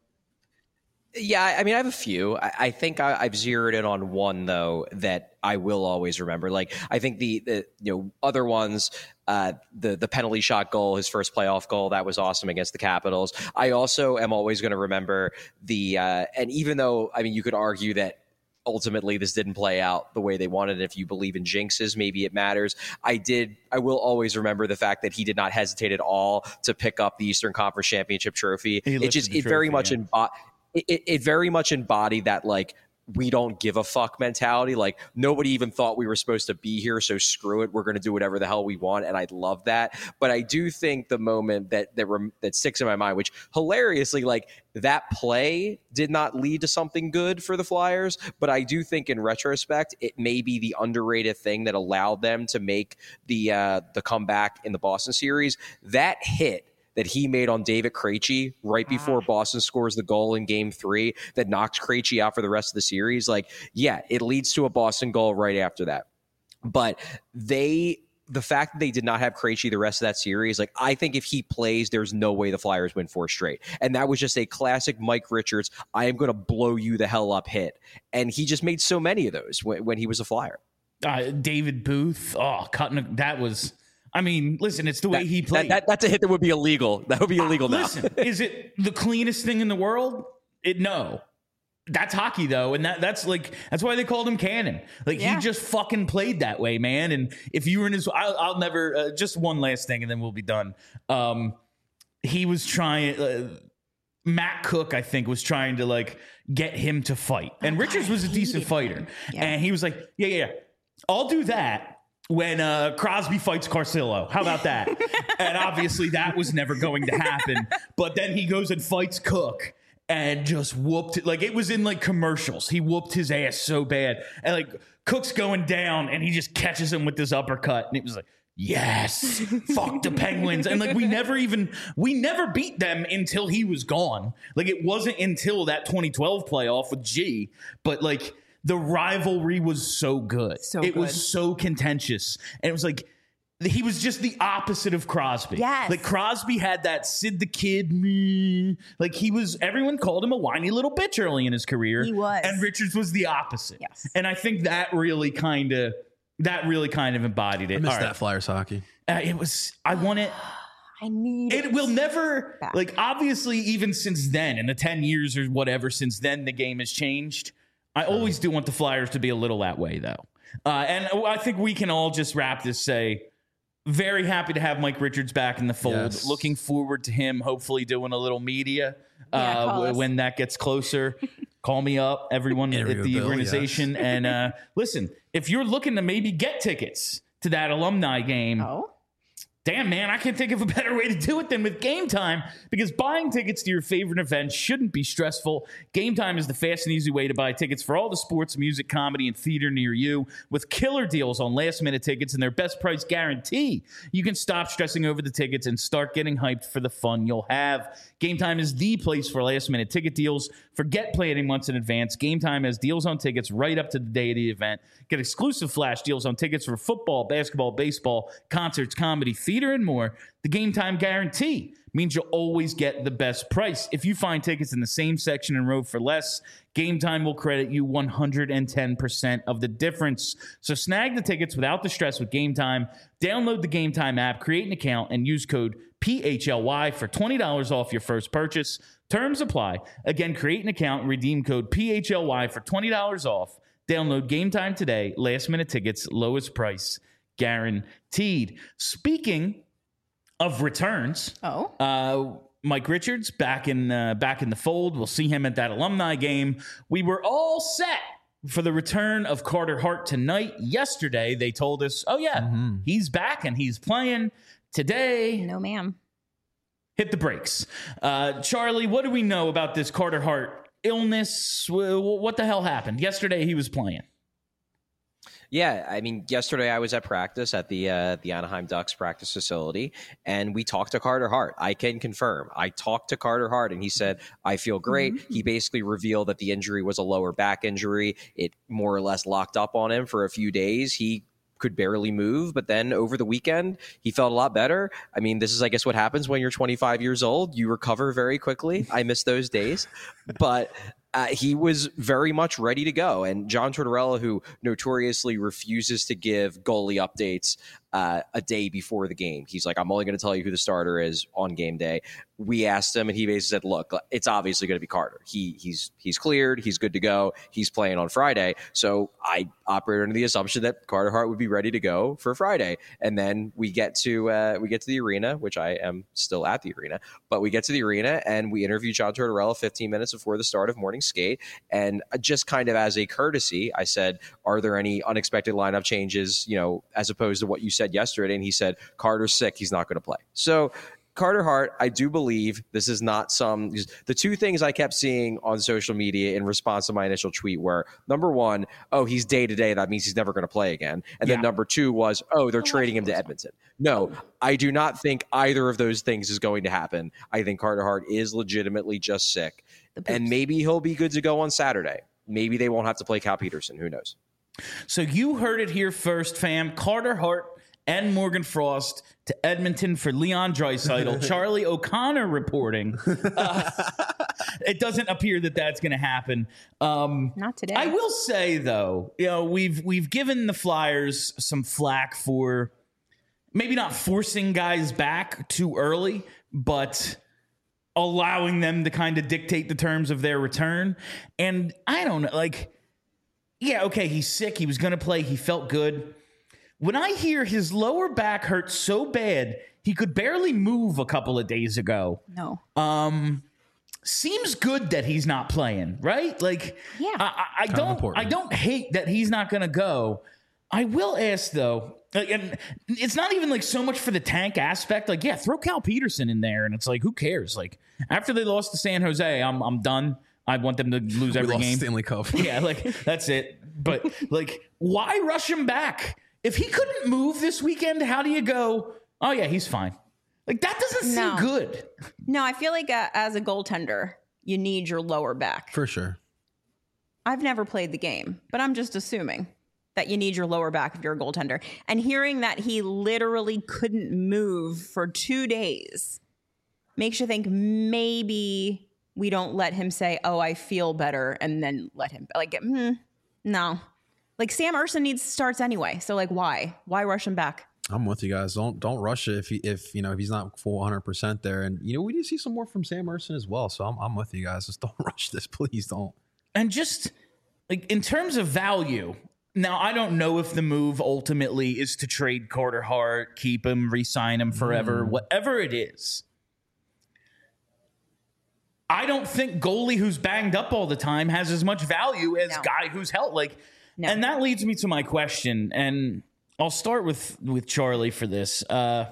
Yeah, I mean, I have a few. I, I think I, I've zeroed in on one, though, that I will always remember. Like, I think the, the you know, other ones, uh, the the penalty shot goal, his first playoff goal, that was awesome against the Capitals. I also am always going to remember the, uh, and even though, I mean, you could argue that ultimately this didn't play out the way they wanted. If you believe in jinxes, maybe it matters. I did. I will always remember the fact that he did not hesitate at all to pick up the Eastern Conference Championship trophy. He it just, it trophy, very much yeah. embodied. It, it very much embodied that, like, we don't give a fuck mentality. Like, nobody even thought we were supposed to be here, so screw it. We're going to do whatever the hell we want, and I love that. But I do think the moment that that, rem- that sticks in my mind, which hilariously, like, that play did not lead to something good for the Flyers, but I do think in retrospect, it may be the underrated thing that allowed them to make the uh, the comeback in the Boston series. That hit that he made on David Krejci right before Boston scores the goal in game three that knocks Krejci out for the rest of the series. Like, yeah, it leads to a Boston goal right after that. But they, the fact that they did not have Krejci the rest of that series, like I think if he plays, there's no way the Flyers win four straight. And that was just a classic Mike Richards, I am going to blow you the hell up hit. And he just made so many of those when, when he was a Flyer. Uh, David Booth, oh, cutting a, that was. I mean, listen, it's the way that, he played. That, that, that's a hit that would be illegal. That would be illegal uh, now. Listen, is it the cleanest thing in the world? It no. That's hockey though, and that that's like that's why they called him Cannon. Like Yeah. he just fucking played that way, man. And if you were in his, I'll, I'll never. Uh, just one last thing, and then we'll be done. Um, he was trying. Uh, Matt Cook, I think, was trying to like get him to fight, and Richards was a decent fighter, Yeah. and he was like, "Yeah, yeah, yeah, I'll do that." When uh, Crosby fights Carcillo. How about that? And obviously that was never going to happen. But then he goes and fights Cook and just whooped it. Like it was in like commercials. He whooped his ass so bad. And like Cook's going down and he just catches him with this uppercut. And it was like, yes, fuck the Penguins. And like we never even, we never beat them until he was gone. Like it wasn't until that twenty twelve playoff with G. But like, the rivalry was so good. So it good. was so contentious. And it was like, he was just the opposite of Crosby. Yes. Like Crosby had that Sid the Kid, me. Like he was, everyone called him a whiny little bitch early in his career. He was. And Richards was the opposite. Yes. And I think that really kind of, that really kind of embodied it. I missed All right. that Flyers hockey. Uh, it was, I want it. I need It will never, back. like, obviously, even since then, in the ten years or whatever, since then, the game has changed. I always do want the Flyers to be a little that way, though. Uh, and I think we can all just wrap this, say, very happy to have Mike Richards back in the fold. Yes. Looking forward to him hopefully doing a little media Yeah, uh, call w- us. when that gets closer. Call me up, everyone at Interview the Bill, organization. And uh, listen, if you're looking to maybe get tickets to that alumni game, Oh. damn, man, I can't think of a better way to do it than with Game Time, because buying tickets to your favorite event shouldn't be stressful. Game Time is the fast and easy way to buy tickets for all the sports, music, comedy, and theater near you, with killer deals on last-minute tickets and their best price guarantee. You can stop stressing over the tickets and start getting hyped for the fun you'll have. Game Time is the place for last-minute ticket deals. Forget planning months in advance. Game Time has deals on tickets right up to the day of the event. Get exclusive flash deals on tickets for football, basketball, baseball, concerts, comedy, theater, and more. The Game Time guarantee means you'll always get the best price. If you find tickets in the same section and row for less, Game Time will credit you one hundred ten percent of the difference. So snag the tickets without the stress with Game Time. Download the Game Time app, create an account, and use code P H L Y for twenty dollars off your first purchase. Terms apply. Again, create an account and redeem code P H L Y for twenty dollars off. Download Game Time today. Last minute tickets, lowest price guaranteed. Speaking of returns, Oh. uh, Mike Richards back in uh, back in the fold. We'll see him at that alumni game. We were all set for the return of Carter Hart tonight. Yesterday, they told us, oh, yeah, Mm-hmm. he's back and he's playing. Today, No, ma'am. hit the brakes. Uh, Charlie, what do we know about this Carter Hart illness? Wh- What the hell happened? Yesterday, he was playing. Yeah, I mean, yesterday I was at practice at the uh, the Anaheim Ducks practice facility, and we talked to Carter Hart. I can confirm. I talked to Carter Hart, and he said, I feel great. Mm-hmm. He basically revealed that the injury was a lower back injury. It more or less locked up on him for a few days. He could barely move, but then over the weekend, he felt a lot better. I mean, this is, I guess, what happens when you're twenty-five years old. You recover very quickly. I miss those days. But Uh, he was very much ready to go. And John Tortorella, who notoriously refuses to give goalie updates uh, a day before the game, he's like, I'm only going to tell you who the starter is on game day. We asked him, and he basically said, look, it's obviously going to be Carter. He he's he's cleared. He's good to go. He's playing on Friday. So I operated under the assumption that Carter Hart would be ready to go for Friday. And then we get to uh, we get to the arena, which I am still at the arena, but we get to the arena and we interview John Tortorella fifteen minutes before the start of morning skate. And just kind of as a courtesy, I said, are there any unexpected lineup changes, you know, as opposed to what you said yesterday? And he said, Carter's sick. He's not going to play. So Carter Hart, I do believe this is not some – the two things I kept seeing on social media in response to my initial tweet were, number one, oh, he's day-to-day. That means he's never going to play again. And Yeah. then number two was, oh, they're trading him to Edmonton. No, I do not think either of those things is going to happen. I think Carter Hart is legitimately just sick. And maybe he'll be good to go on Saturday. Maybe they won't have to play Cal Peterson. Who knows? So you heard it here first, fam. Carter Hart and Morgan Frost to Edmonton for Leon Draisaitl. Charlie O'Connor reporting. Uh, it doesn't appear that that's going to happen. Um, Not today. I will say, though, you know, we've we've given the Flyers some flack for maybe not forcing guys back too early, but allowing them to kind of dictate the terms of their return. And I don't know, like, yeah, okay, he's sick. He was going to play. He felt good. When I hear his lower back hurt so bad, he could barely move a couple of days ago. No. Um, seems good that he's not playing, right? Like, Yeah. I, I, I don't, important. I don't hate that he's not going to go. I will ask though, like, and it's not even like so much for the tank aspect. Like, yeah, throw Cal Peterson in there, and it's like, who cares? Like, after they lost to San Jose, I'm I'm done. I want them to lose We every lost game. Stanley Cup. Yeah, like that's it. But like, why rush him back? If he couldn't move this weekend, how do you go, oh yeah, he's fine? Like, that doesn't seem No. good. No, I feel like uh, as a goaltender, you need your lower back. For sure. I've never played the game, but I'm just assuming that you need your lower back if you're a goaltender. And hearing that he literally couldn't move for two days makes you think maybe we don't let him say, oh, I feel better, and then let him, like, mm, no. Like, Sam Ersson needs starts anyway. So, like, why? Why rush him back? I'm with you guys. Don't don't rush it if he, if you know if he's not full one hundred percent there. And you know we need to see some more from Sam Ersson as well. So I'm I'm with you guys. Just don't rush this, please don't. And just like in terms of value, now I don't know if the move ultimately is to trade Carter Hart, keep him, re-sign him forever, Mm. whatever it is. I don't think goalie who's banged up all the time has as much value as No. guy who's held. Like, No. and that leads me to my question, and I'll start with with Charlie for this. Uh,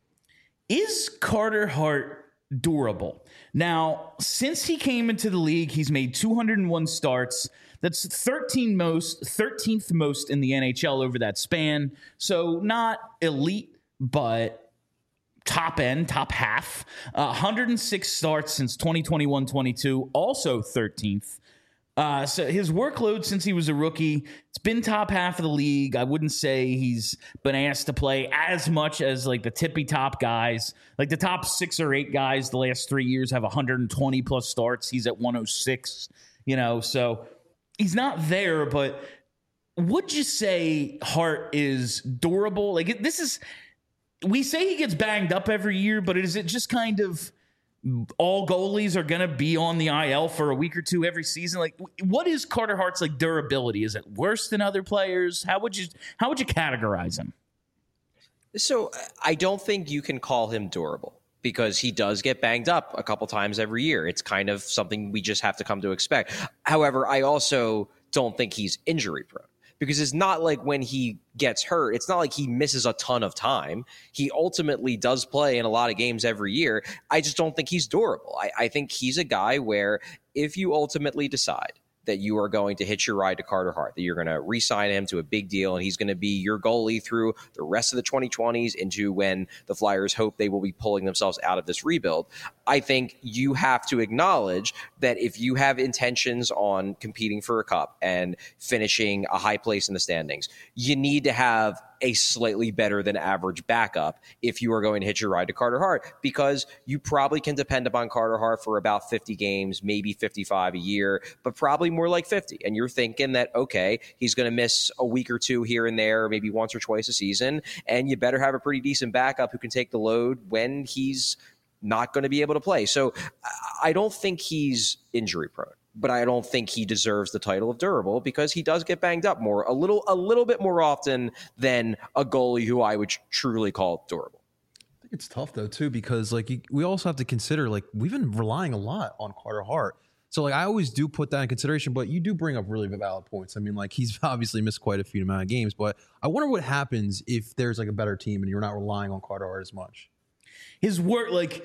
is Carter Hart durable? Now, since he came into the league, he's made two hundred one starts. That's thirteen most, thirteenth most in the N H L over that span. So not elite, but top end, top half. Uh, one hundred six starts since twenty twenty-one twenty-two, also thirteenth. Uh, so his workload since he was a rookie, it's been top half of the league. I wouldn't say he's been asked to play as much as like the tippy top guys. Like the top six or eight guys the last three years have one hundred twenty plus starts. He's at one oh six, you know, so he's not there, but would you say Hart is durable? Like it, this is, we say he gets banged up every year, but is it just kind of all goalies are going to be on the I L for a week or two every season? Like, what is Carter Hart's like durability? Is it worse than other players? How would you how would you categorize him? So I don't think you can call him durable because he does get banged up a couple times every year. It's kind of something we just have to come to expect. However, I also don't think he's injury prone. Because it's not like when he gets hurt, it's not like he misses a ton of time. He ultimately does play in a lot of games every year. I just don't think he's durable. I, I think he's a guy where if you ultimately decide that you are going to hitch your ride to Carter Hart, that you're going to re-sign him to a big deal, and he's going to be your goalie through the rest of the twenty twenties into when the Flyers hope they will be pulling themselves out of this rebuild. I think you have to acknowledge that if you have intentions on competing for a cup and finishing a high place in the standings, you need to have a slightly better than average backup if you are going to hitch your ride to Carter Hart, because you probably can depend upon Carter Hart for about fifty games, maybe fifty-five a year, but probably more like fifty. And you're thinking that, okay, he's going to miss a week or two here and there, maybe once or twice a season, and you better have a pretty decent backup who can take the load when he's not going to be able to play. So I don't think he's injury prone, but I don't think he deserves the title of durable because he does get banged up more, a little, a little bit more often than a goalie who I would truly call durable. I think it's tough though too, because like you, we also have to consider, like, we've been relying a lot on Carter Hart. So like I always do put that in consideration, but you do bring up really valid points. I mean, like he's obviously missed quite a few amount of games, but I wonder what happens if there's like a better team and you're not relying on Carter Hart as much. His work, like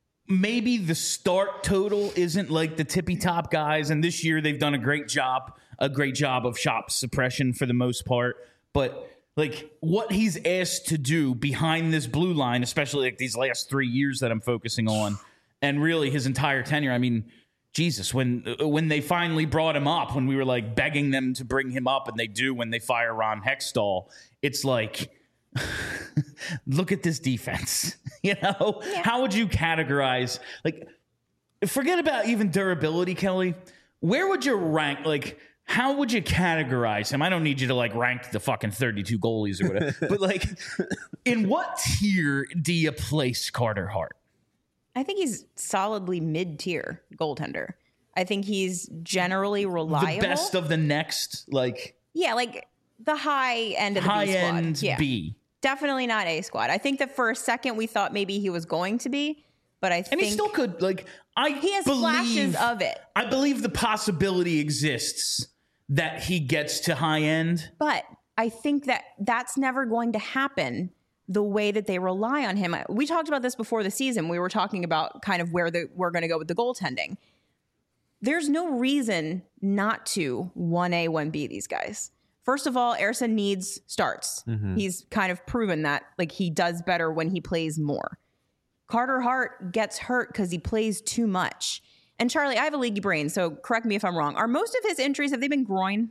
maybe the start total isn't like the tippy top guys, and this year they've done a great job, a great job of shot suppression for the most part. But like what he's asked to do behind this blue line, especially like these last three years that I'm focusing on, and really his entire tenure. I mean, Jesus, when when they finally brought him up, when we were like begging them to bring him up, and they do when they fire Ron Hextall, it's like, look at this defense. You know, Yeah. how would you categorize, like, forget about even durability, Kelly. Where would you rank, like, how would you categorize him? I don't need you to like rank the fucking thirty-two goalies or whatever, but like, in what tier do you place Carter Hart? I think he's solidly mid-tier goaltender. I think he's generally reliable. The best of the next, like, yeah, like the high end of the high B squad. end Yeah. B. Definitely not A squad. I think that for a second we thought maybe he was going to be, but I And think he still could, like, I he has believe, flashes of it. I believe the possibility exists that he gets to high end. But I think that that's never going to happen the way that they rely on him. We talked about this before the season. We were talking about kind of where the, we're going to go with the goaltending. There's no reason not to one A, one B these guys. First of all, Ersson needs starts. Mm-hmm. He's kind of proven that, like, he does better when he plays more. Carter Hart gets hurt because he plays too much. And Charlie, I have a leaky brain, so correct me if I'm wrong. Are most of his injuries, have they been groin?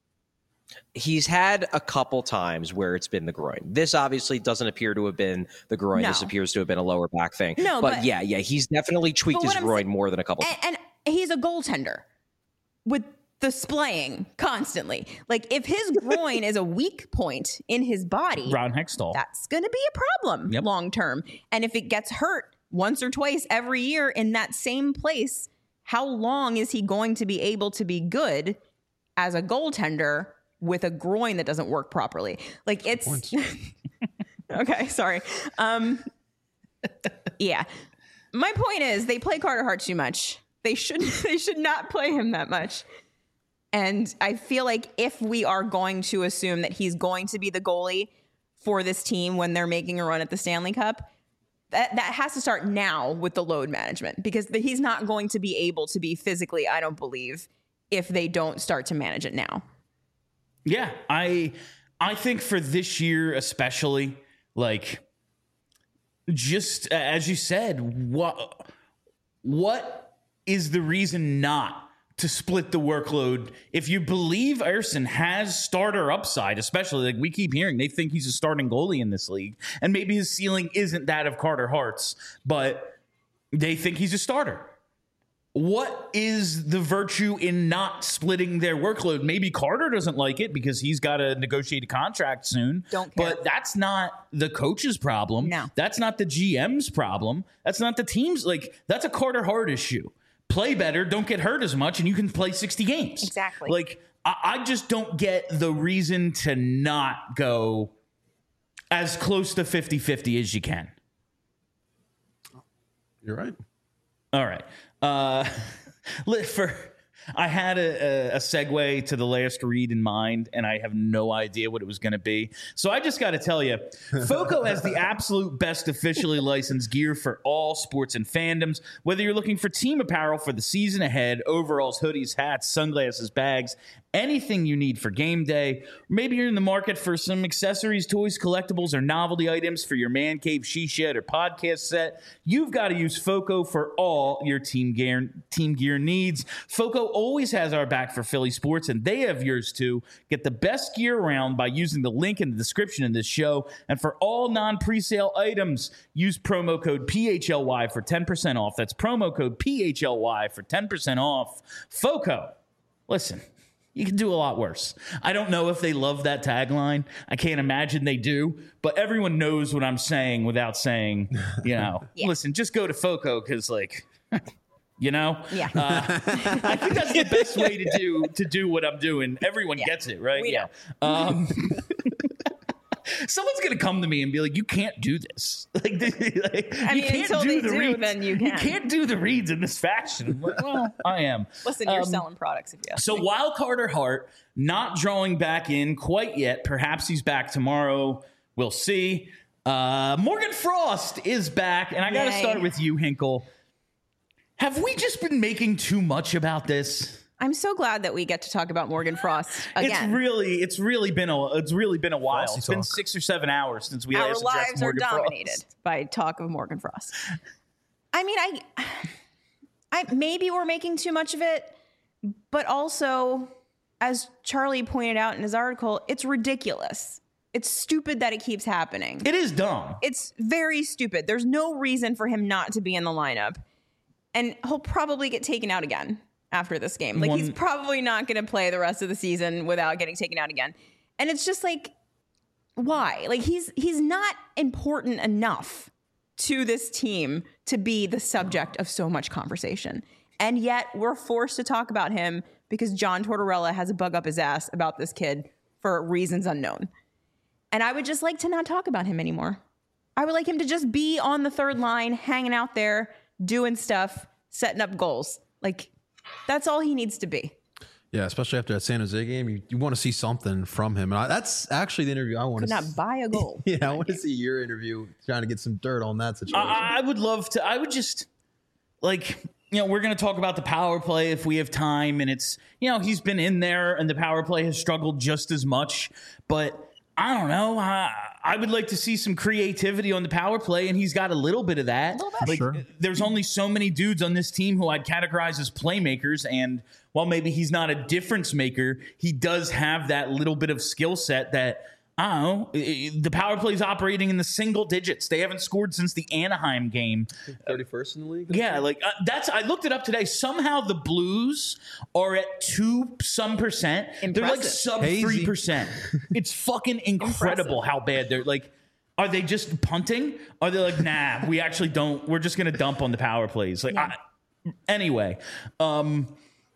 He's had a couple times where it's been the groin. This obviously doesn't appear to have been the groin. No. This appears to have been a lower back thing. No, but, but- yeah, yeah, he's definitely tweaked But his what I'm groin saying- more than a couple. And, and he's a goaltender with the splaying constantly. Like, if his groin is a weak point in his body, Ron Hextall. that's going to be a problem Yep. long term. And if it gets hurt once or twice every year in that same place, how long is he going to be able to be good as a goaltender with a groin that doesn't work properly? Like, it's okay. Sorry. Um, yeah. My point is, they play Carter Hart too much. They should they should not play him that much. And I feel like if we are going to assume that he's going to be the goalie for this team when they're making a run at the Stanley Cup, that that has to start now with the load management, because the, he's not going to be able to be physically, I don't believe, if they don't start to manage it now. Yeah, I I think for this year especially, like, just as you said, what what is the reason not to split the workload? If you believe Ersson has starter upside, especially, like, we keep hearing they think he's a starting goalie in this league, and maybe his ceiling isn't that of Carter Hart's, but they think he's a starter. What is the virtue in not splitting their workload? Maybe Carter doesn't like it because he's got to negotiate a contract soon. Don't care. But that's not the coach's problem. No. That's not the G M's problem. That's not the team's. Like, that's a Carter Hart issue. Play better, don't get hurt as much, and you can play sixty games. Exactly. Like, I, I just don't get the reason to not go as close to fifty-fifty as you can. You're right. All right. Uh, for I had a, a, a segue to the last read in mind, and I have no idea what it was going to be. So I just got to tell you, FOCO has the absolute best officially licensed gear for all sports and fandoms. Whether you're looking for team apparel for the season ahead, overalls, hoodies, hats, sunglasses, bags, anything you need for game day. Maybe you're in the market for some accessories, toys, collectibles, or novelty items for your man cave, she shed, or podcast set. You've got to use FOCO for all your team gear, team gear needs. FOCO always has our back for Philly sports, and they have yours too. Get the best gear around by using the link in the description of this show. And for all non-presale items, use promo code P H L Y for ten percent off. That's promo code P H L Y for ten percent off. FOCO. Listen, you can do a lot worse. I don't know if they love that tagline. I can't imagine they do, but everyone knows what I'm saying without saying, you know, Yeah. listen, just go to FOCO because, like, you know, Yeah. uh, I think that's the best way to do to do what I'm doing. Everyone Yeah. gets it, right? We yeah. Um, someone's gonna come to me and be like, "You can't do this. Like, like I you mean, can't until do they the do, reads. then you You can." can't do the reads in this fashion." I'm like, well, I am. Listen, you're Um, selling products if you ask So me. while Carter Hart not drawing back in quite yet, perhaps he's back tomorrow. We'll see. Uh, Morgan Frost is back, and I got to Yay. start with you, Hinkle. Have we just been making too much about this? I'm so glad that we get to talk about Morgan Frost again. It's really, it's really been a, it's really been a while. Frosty It's been talk. six or seven hours since we Our last addressed lives are Morgan dominated Frost. by talk of Morgan Frost. I mean, I, I maybe we're making too much of it, but also, as Charlie pointed out in his article, it's ridiculous. It's stupid that it keeps happening. It is dumb. It's very stupid. There's no reason for him not to be in the lineup. And he'll probably get taken out again after this game. Like, One, he's probably not going to play the rest of the season without getting taken out again. And it's just like, why? Like, he's he's not important enough to this team to be the subject of so much conversation. And yet we're forced to talk about him because John Tortorella has a bug up his ass about this kid for reasons unknown. And I would just like to not talk about him anymore. I would like him to just be on the third line, hanging out there, doing stuff, setting up goals. Like, that's all he needs to be. Yeah, especially after that San Jose game, you, you want to see something from him. And I, that's actually the interview I want Could to not see. buy a goal. Yeah, I want to see your interview trying to get some dirt on that situation. I, I would love to. I would just, like, you know, we're going to talk about the power play if we have time. And it's, you know, he's been in there and the power play has struggled just as much. But I don't know. I, I would like to see some creativity on the power play, and he's got a little bit of that. Like, sure. There's only so many dudes on this team who I'd categorize as playmakers, and while maybe he's not a difference maker, he does have that little bit of skill set that, I don't know, the power play is operating in the single digits. They haven't scored since the Anaheim game. thirty-first in the league? Yeah, like uh, that's. I looked it up today. Somehow the Blues are at two some percent. They're like Impressive. sub Hazy. three percent. It's fucking incredible how bad they're like. Are they just punting? Are they like, nah, we actually don't. We're just gonna dump on the power plays. Like, Yeah. I, anyway, um,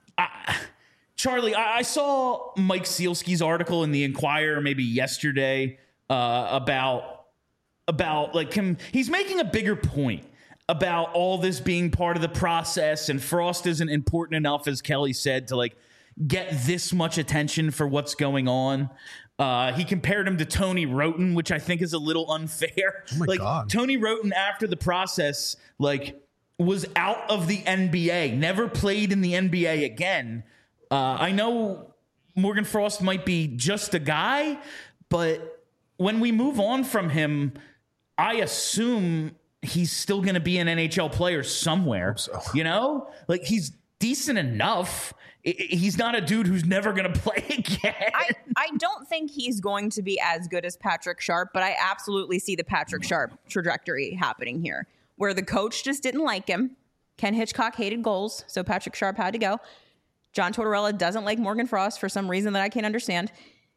I, Charlie, I, I saw Mike Sealski's article in the Enquirer maybe yesterday uh, about about like him. He's making a bigger point about all this being part of the process, and Frost isn't important enough, as Kelly said, to like get this much attention for what's going on. Uh, he compared him to Tony Roten, which I think is a little unfair. Oh my like God. Tony Roten, after the process, like was out of the N B A, never played in the N B A again. Uh, I know Morgan Frost might be just a guy, but when we move on from him, I assume he's still going to be an N H L player somewhere. so. You know, like he's decent enough. I- I- He's not a dude who's never going to play again. I, I don't think he's going to be as good as Patrick Sharp, but I absolutely see the Patrick Sharp trajectory happening here, where the coach just didn't like him. Ken Hitchcock hated goals, so Patrick Sharp had to go. John Tortorella doesn't like Morgan Frost for some reason that I can't understand.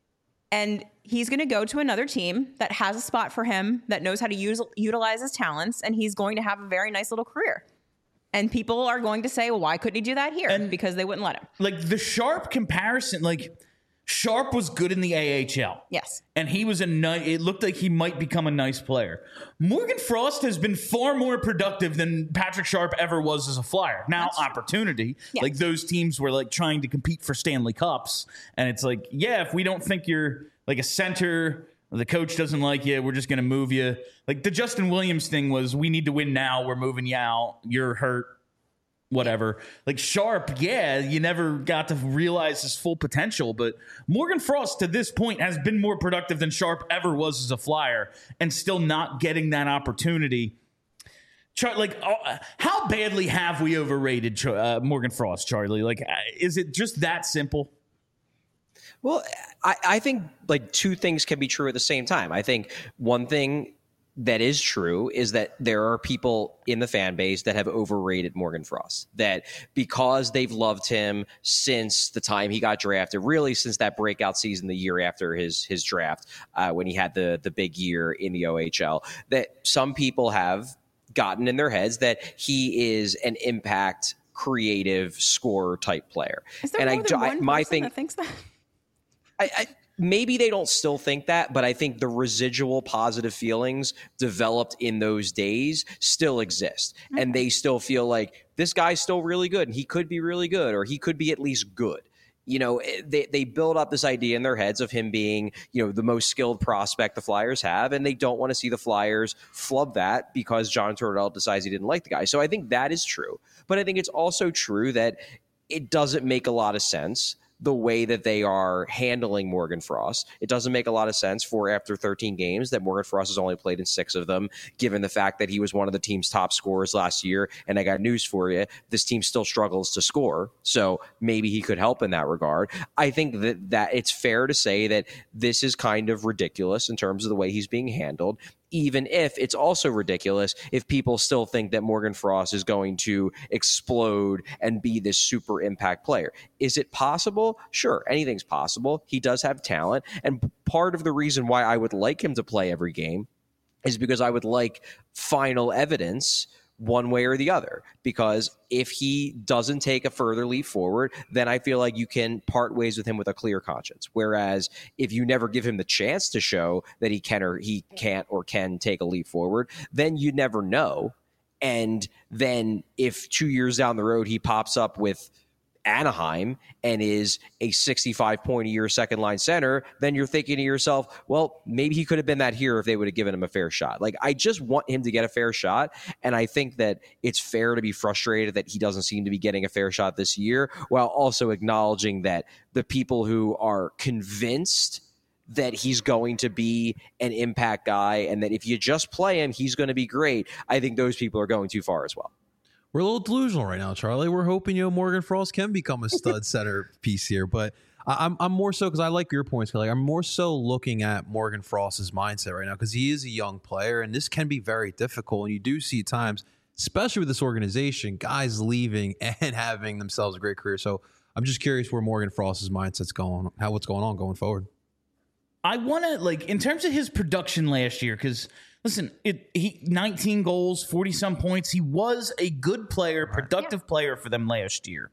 And he's going to go to another team that has a spot for him, that knows how to use, utilize his talents, and he's going to have a very nice little career. And people are going to say, well, why couldn't he do that here? And- because they wouldn't let him. Like the Sharp comparison, like Sharp was good in the A H L. Yes. And he was a ni- it looked like he might become a nice player. Morgan Frost has been far more productive than Patrick Sharp ever was as a Flyer. Now, opportunity. Yeah. Like those teams were like trying to compete for Stanley Cups. And it's like, yeah, if we don't think you're like a center, or the coach doesn't like you, we're just going to move you. Like the Justin Williams thing was, we need to win now. We're moving you out. You're hurt. Whatever. Like Sharp, yeah, you never got to realize his full potential, but Morgan Frost to this point has been more productive than Sharp ever was as a Flyer, and still not getting that opportunity. Char- like, uh, how badly have we overrated Char- uh, Morgan Frost, Charlie? Like, uh, is it just that simple? Well, I, I think like two things can be true at the same time. I think one thing that is true is that there are people in the fan base that have overrated Morgan Frost, that because they've loved him since the time he got drafted, really since that breakout season the year after his his draft, uh, when he had the the big year in the O H L, that some people have gotten in their heads that he is an impact, creative, scorer type player. Is there and more I, than I one my person thing, that thinks that? I, I maybe they don't still think that, but I think the residual positive feelings developed in those days still exist. Mm-hmm. And they still feel like this guy's still really good and he could be really good, or he could be at least good. You know, they, they build up this idea in their heads of him being, you know, the most skilled prospect the Flyers have, and they don't want to see the Flyers flub that because John Tortorella decides he didn't like the guy. So I think that is true. But I think it's also true that it doesn't make a lot of sense the way that they are handling Morgan Frost. It doesn't make a lot of sense for after thirteen games that Morgan Frost has only played in six of them, given the fact that he was one of the team's top scorers last year. And I got news for you. This team still struggles to score. So maybe he could help in that regard. I think that, that it's fair to say that this is kind of ridiculous in terms of the way he's being handled, even if it's also ridiculous if people still think that Morgan Frost is going to explode and be this super impact player. Is it possible? Sure, anything's possible. He does have talent. And part of the reason why I would like him to play every game is because I would like final evidence one way or the other. Because if he doesn't take a further leap forward, then I feel like you can part ways with him with a clear conscience. Whereas if you never give him the chance to show that he can or he can't or can take a leap forward, then you never know. And then if two years down the road he pops up with Anaheim and is a sixty-five point a year second line center, then you're thinking to yourself, well, maybe he could have been that here if they would have given him a fair shot. Like, I just want him to get a fair shot. And I think that it's fair to be frustrated that he doesn't seem to be getting a fair shot this year, while also acknowledging that the people who are convinced that he's going to be an impact guy and that if you just play him, he's going to be great, I think those people are going too far as well. We're a little delusional right now, Charlie. We're hoping, you know, Morgan Frost can become a stud center piece here, but I, I'm I'm more so because I like your points. Like, I'm more so looking at Morgan Frost's mindset right now because he is a young player, and this can be very difficult. And you do see times, especially with this organization, guys leaving and having themselves a great career. So I'm just curious where Morgan Frost's mindset's going, how what's going on going forward. I want to, like, in terms of his production last year, because listen, it he nineteen goals, forty some points. He was a good player, productive yeah. player for them last year.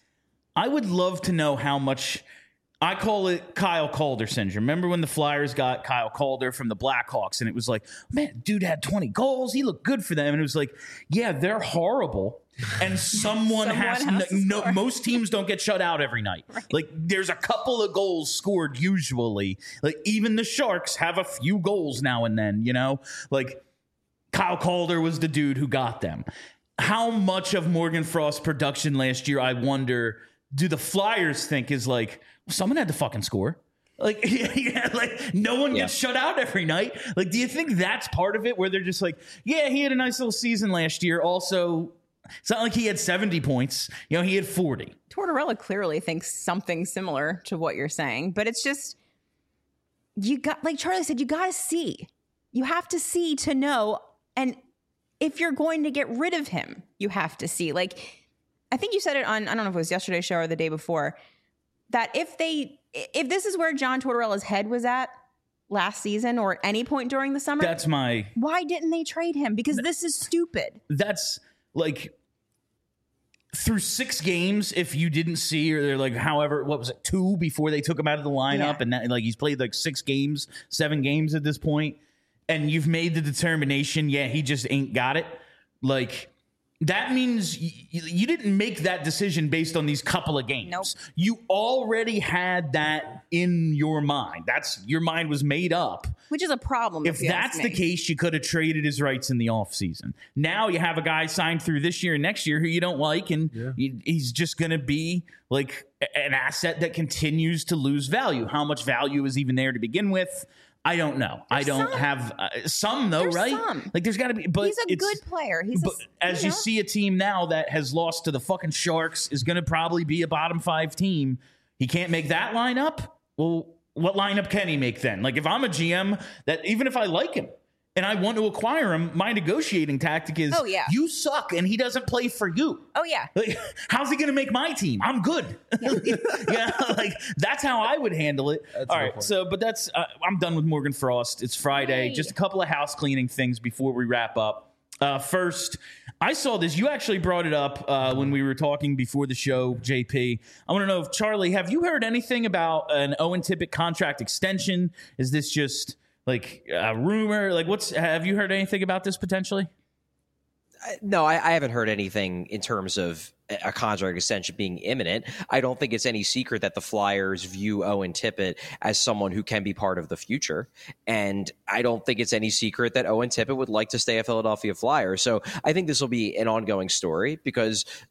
I would love to know how much. I call it Kyle Calder syndrome. Remember when the Flyers got Kyle Calder from the Blackhawks, and it was like, man, dude had twenty goals. He looked good for them, and it was like, yeah, they're horrible. And someone, someone has, has no, no most teams don't get shut out every night. Right. Like, there's a couple of goals scored usually. Like, even the Sharks have a few goals now and then, you know? Like, Kyle Calder was the dude who got them. How much of Morgan Frost's production last year, I wonder, do the Flyers think is like, someone had to fucking score? Like, yeah, like no one gets yeah. shut out every night. Like, do you think that's part of it, where they're just like, yeah, he had a nice little season last year. Also, it's not like he had seventy points. You know, he had forty. Tortorella clearly thinks something similar to what you're saying, but it's just, you got, like Charlie said, you got to see. You have to see to know. And if you're going to get rid of him, you have to see. Like, I think you said it on, I don't know if it was yesterday's show or the day before, that if they, if this is where John Tortorella's head was at last season or at any point during the summer, that's my, why didn't they trade him? Because this is stupid. That's like, through six games, if you didn't see, or they're like, however, what was it, two before they took him out of the lineup, yeah. and that, like, he's played like six games, seven games at this point, and you've made the determination, yeah, he just ain't got it. Like, that means y- you didn't make that decision based on these couple of games. Nope. You already had that in your mind. That's your mind was made up. Which is a problem. If, if that's the case, you could have traded his rights in the offseason. Now you have a guy signed through this year and next year who you don't like, and yeah. you, he's just going to be like an asset that continues to lose value. How much value is even there to begin with? I don't know. There's I don't some. have uh, some though, there's right? Some. Like, there's got to be. But he's a good player. He's but a, as you, you know. see a team now that has lost to the fucking Sharks, is going to probably be a bottom five team. He can't make that lineup. Well, what lineup can he make then? Like, if I'm a G M, that even if I like him and I want to acquire him, my negotiating tactic is, oh, yeah. you suck and he doesn't play for you. Oh, yeah. Like, how's he going to make my team? I'm good. Yeah. yeah, like, that's how I would handle it. That's all right, point. so, but that's, uh, I'm done with Morgan Frost. It's Friday. Yay. Just a couple of house cleaning things before we wrap up. Uh, first, I saw this. You actually brought it up uh, when we were talking before the show, J P. I want to know, if Charlie, have you heard anything about an Owen Tippett contract extension? Is this just like a rumor? Like, what's, have you heard anything about this potentially? No, I, I haven't heard anything in terms of a contract extension being imminent. I don't think it's any secret that the Flyers view Owen Tippett as someone who can be part of the future. And I don't think it's any secret that Owen Tippett would like to stay a Philadelphia Flyer. So I think this will be an ongoing story, because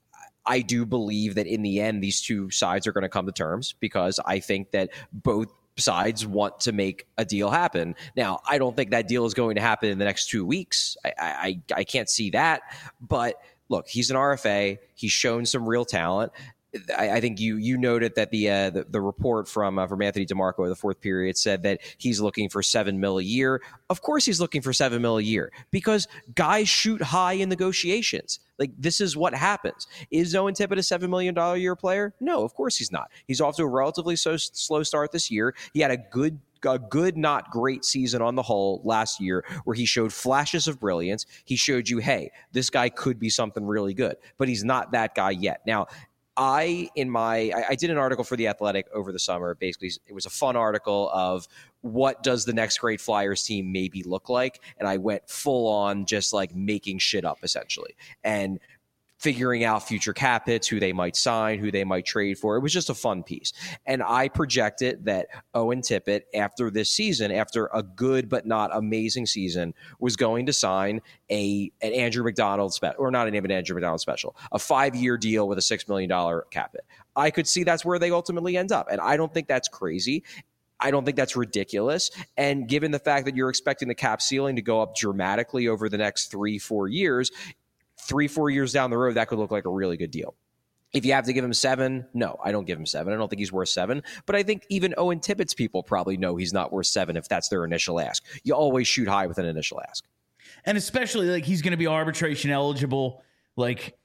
I do believe that in the end, these two sides are going to come to terms because I think that both sides want to make a deal happen. Now, I don't think that deal is going to happen in the next two weeks. I, I, I can't see that. But look, he's an R F A. He's shown some real talent. I, I think you you noted that the uh, the, the report from uh, from Anthony DeMarco of the fourth period said that he's looking for seven mil a year. Of course, he's looking for seven mil a year because guys shoot high in negotiations. Like, this is what happens. Is Owen Tippett a seven million dollars a year player? No, of course he's not. He's off to a relatively so, slow start this year. He had a good a good, not great season on the whole last year where he showed flashes of brilliance. He showed you, hey, this guy could be something really good, but he's not that guy yet. Now, I, in my, I, I did an article for The Athletic over the summer. Basically, it was a fun article of what does the next great Flyers team maybe look like? And I went full on just like making shit up essentially. And figuring out future cap hits, who they might sign, who they might trade for. It was just a fun piece. And I projected that Owen Tippett, after this season, after a good but not amazing season, was going to sign a an Andrew McDonald special, or not even an Andrew McDonald special, a five-year deal with a six million dollars cap hit. I could see that's where they ultimately end up. And I don't think that's crazy. I don't think that's ridiculous. And given the fact that you're expecting the cap ceiling to go up dramatically over the next three, four years, Three, four years down the road, that could look like a really good deal. If you have to give him seven, no, I don't give him seven. I don't think he's worth seven. But I think even Owen Tippett's people probably know he's not worth seven if that's their initial ask. You always shoot high with an initial ask. And especially, like, he's going to be arbitration eligible. Like,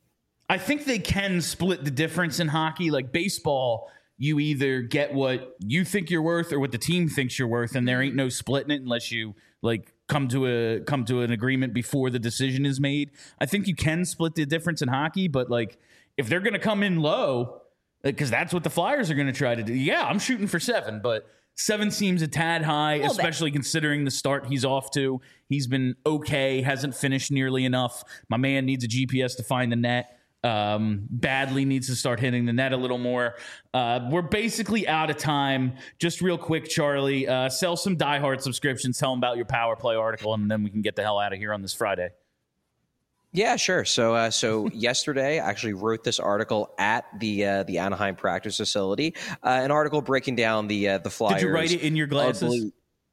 I think they can split the difference in hockey. Like, baseball, you either get what you think you're worth or what the team thinks you're worth, and there ain't no splitting it unless you, like, come to a come to an agreement before the decision is made. I think you can split the difference in hockey, but like if they're going to come in low, because that's what the Flyers are going to try to do. Yeah, I'm shooting for seven, but seven seems a tad high, especially considering the start he's off to. He's been okay, hasn't finished nearly enough. My man needs a G P S to find the net. Um, badly needs to start hitting the net a little more. Uh, we're basically out of time. Just real quick, Charlie, uh, sell some Die Hard subscriptions. Tell them about your Power Play article, and then we can get the hell out of here on this Friday. Yeah, sure. So, uh, so yesterday, I actually wrote this article at the uh, the Anaheim practice facility. Uh, an article breaking down the uh, the Flyers. Did you write it in your glasses? Ugly-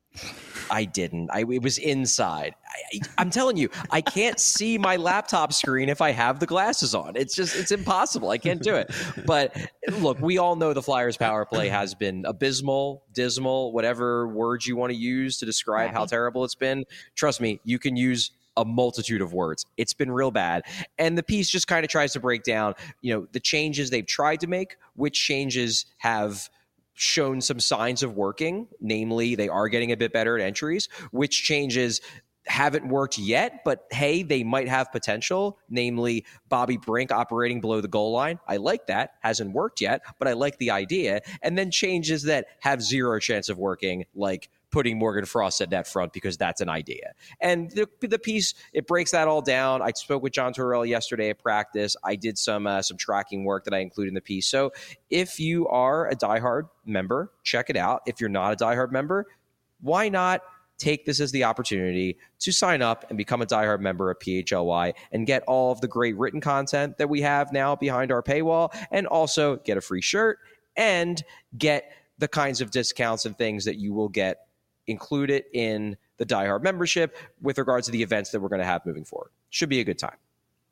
I didn't. I, it was inside. I, I'm telling you, I can't see my laptop screen if I have the glasses on. It's just, it's impossible. I can't do it. But look, we all know the Flyers power play has been abysmal, dismal, whatever words you want to use to describe how terrible it's been. Trust me, you can use a multitude of words. It's been real bad. And the piece just kind of tries to break down, you know, the changes they've tried to make, which changes have shown some signs of working, namely they are getting a bit better at entries, which changes haven't worked yet, but hey, they might have potential, namely Bobby Brink operating below the goal line. I like that. Hasn't worked yet, but I like the idea. And then changes that have zero chance of working, like putting Morgan Frost at net front, because that's an idea. And the, the piece, it breaks that all down. I spoke with John Tortorella yesterday at practice. I did some uh, some tracking work that I include in the piece. So if you are a diehard member, check it out. If you're not a diehard member, why not take this as the opportunity to sign up and become a diehard member of P H L Y and get all of the great written content that we have now behind our paywall, and also get a free shirt and get the kinds of discounts and things that you will get included in the diehard membership with regards to the events that we're going to have moving forward. Should be a good time.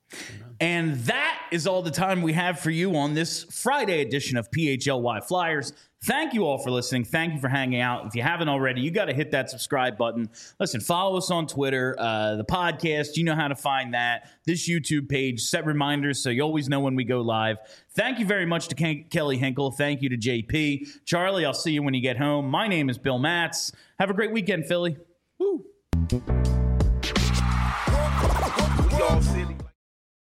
And that is all the time we have for you on this Friday edition of P H L Y Flyers. Thank you all for listening. Thank you for hanging out. If you haven't already, you got to hit that subscribe button. Listen, follow us on Twitter, uh, the podcast. You know how to find that. This YouTube page, set reminders so you always know when we go live. Thank you very much to Ken- Kelly Hinkle. Thank you to J P. Charlie, I'll see you when you get home. My name is Bill Matz. Have a great weekend, Philly. Woo. Y'all silly.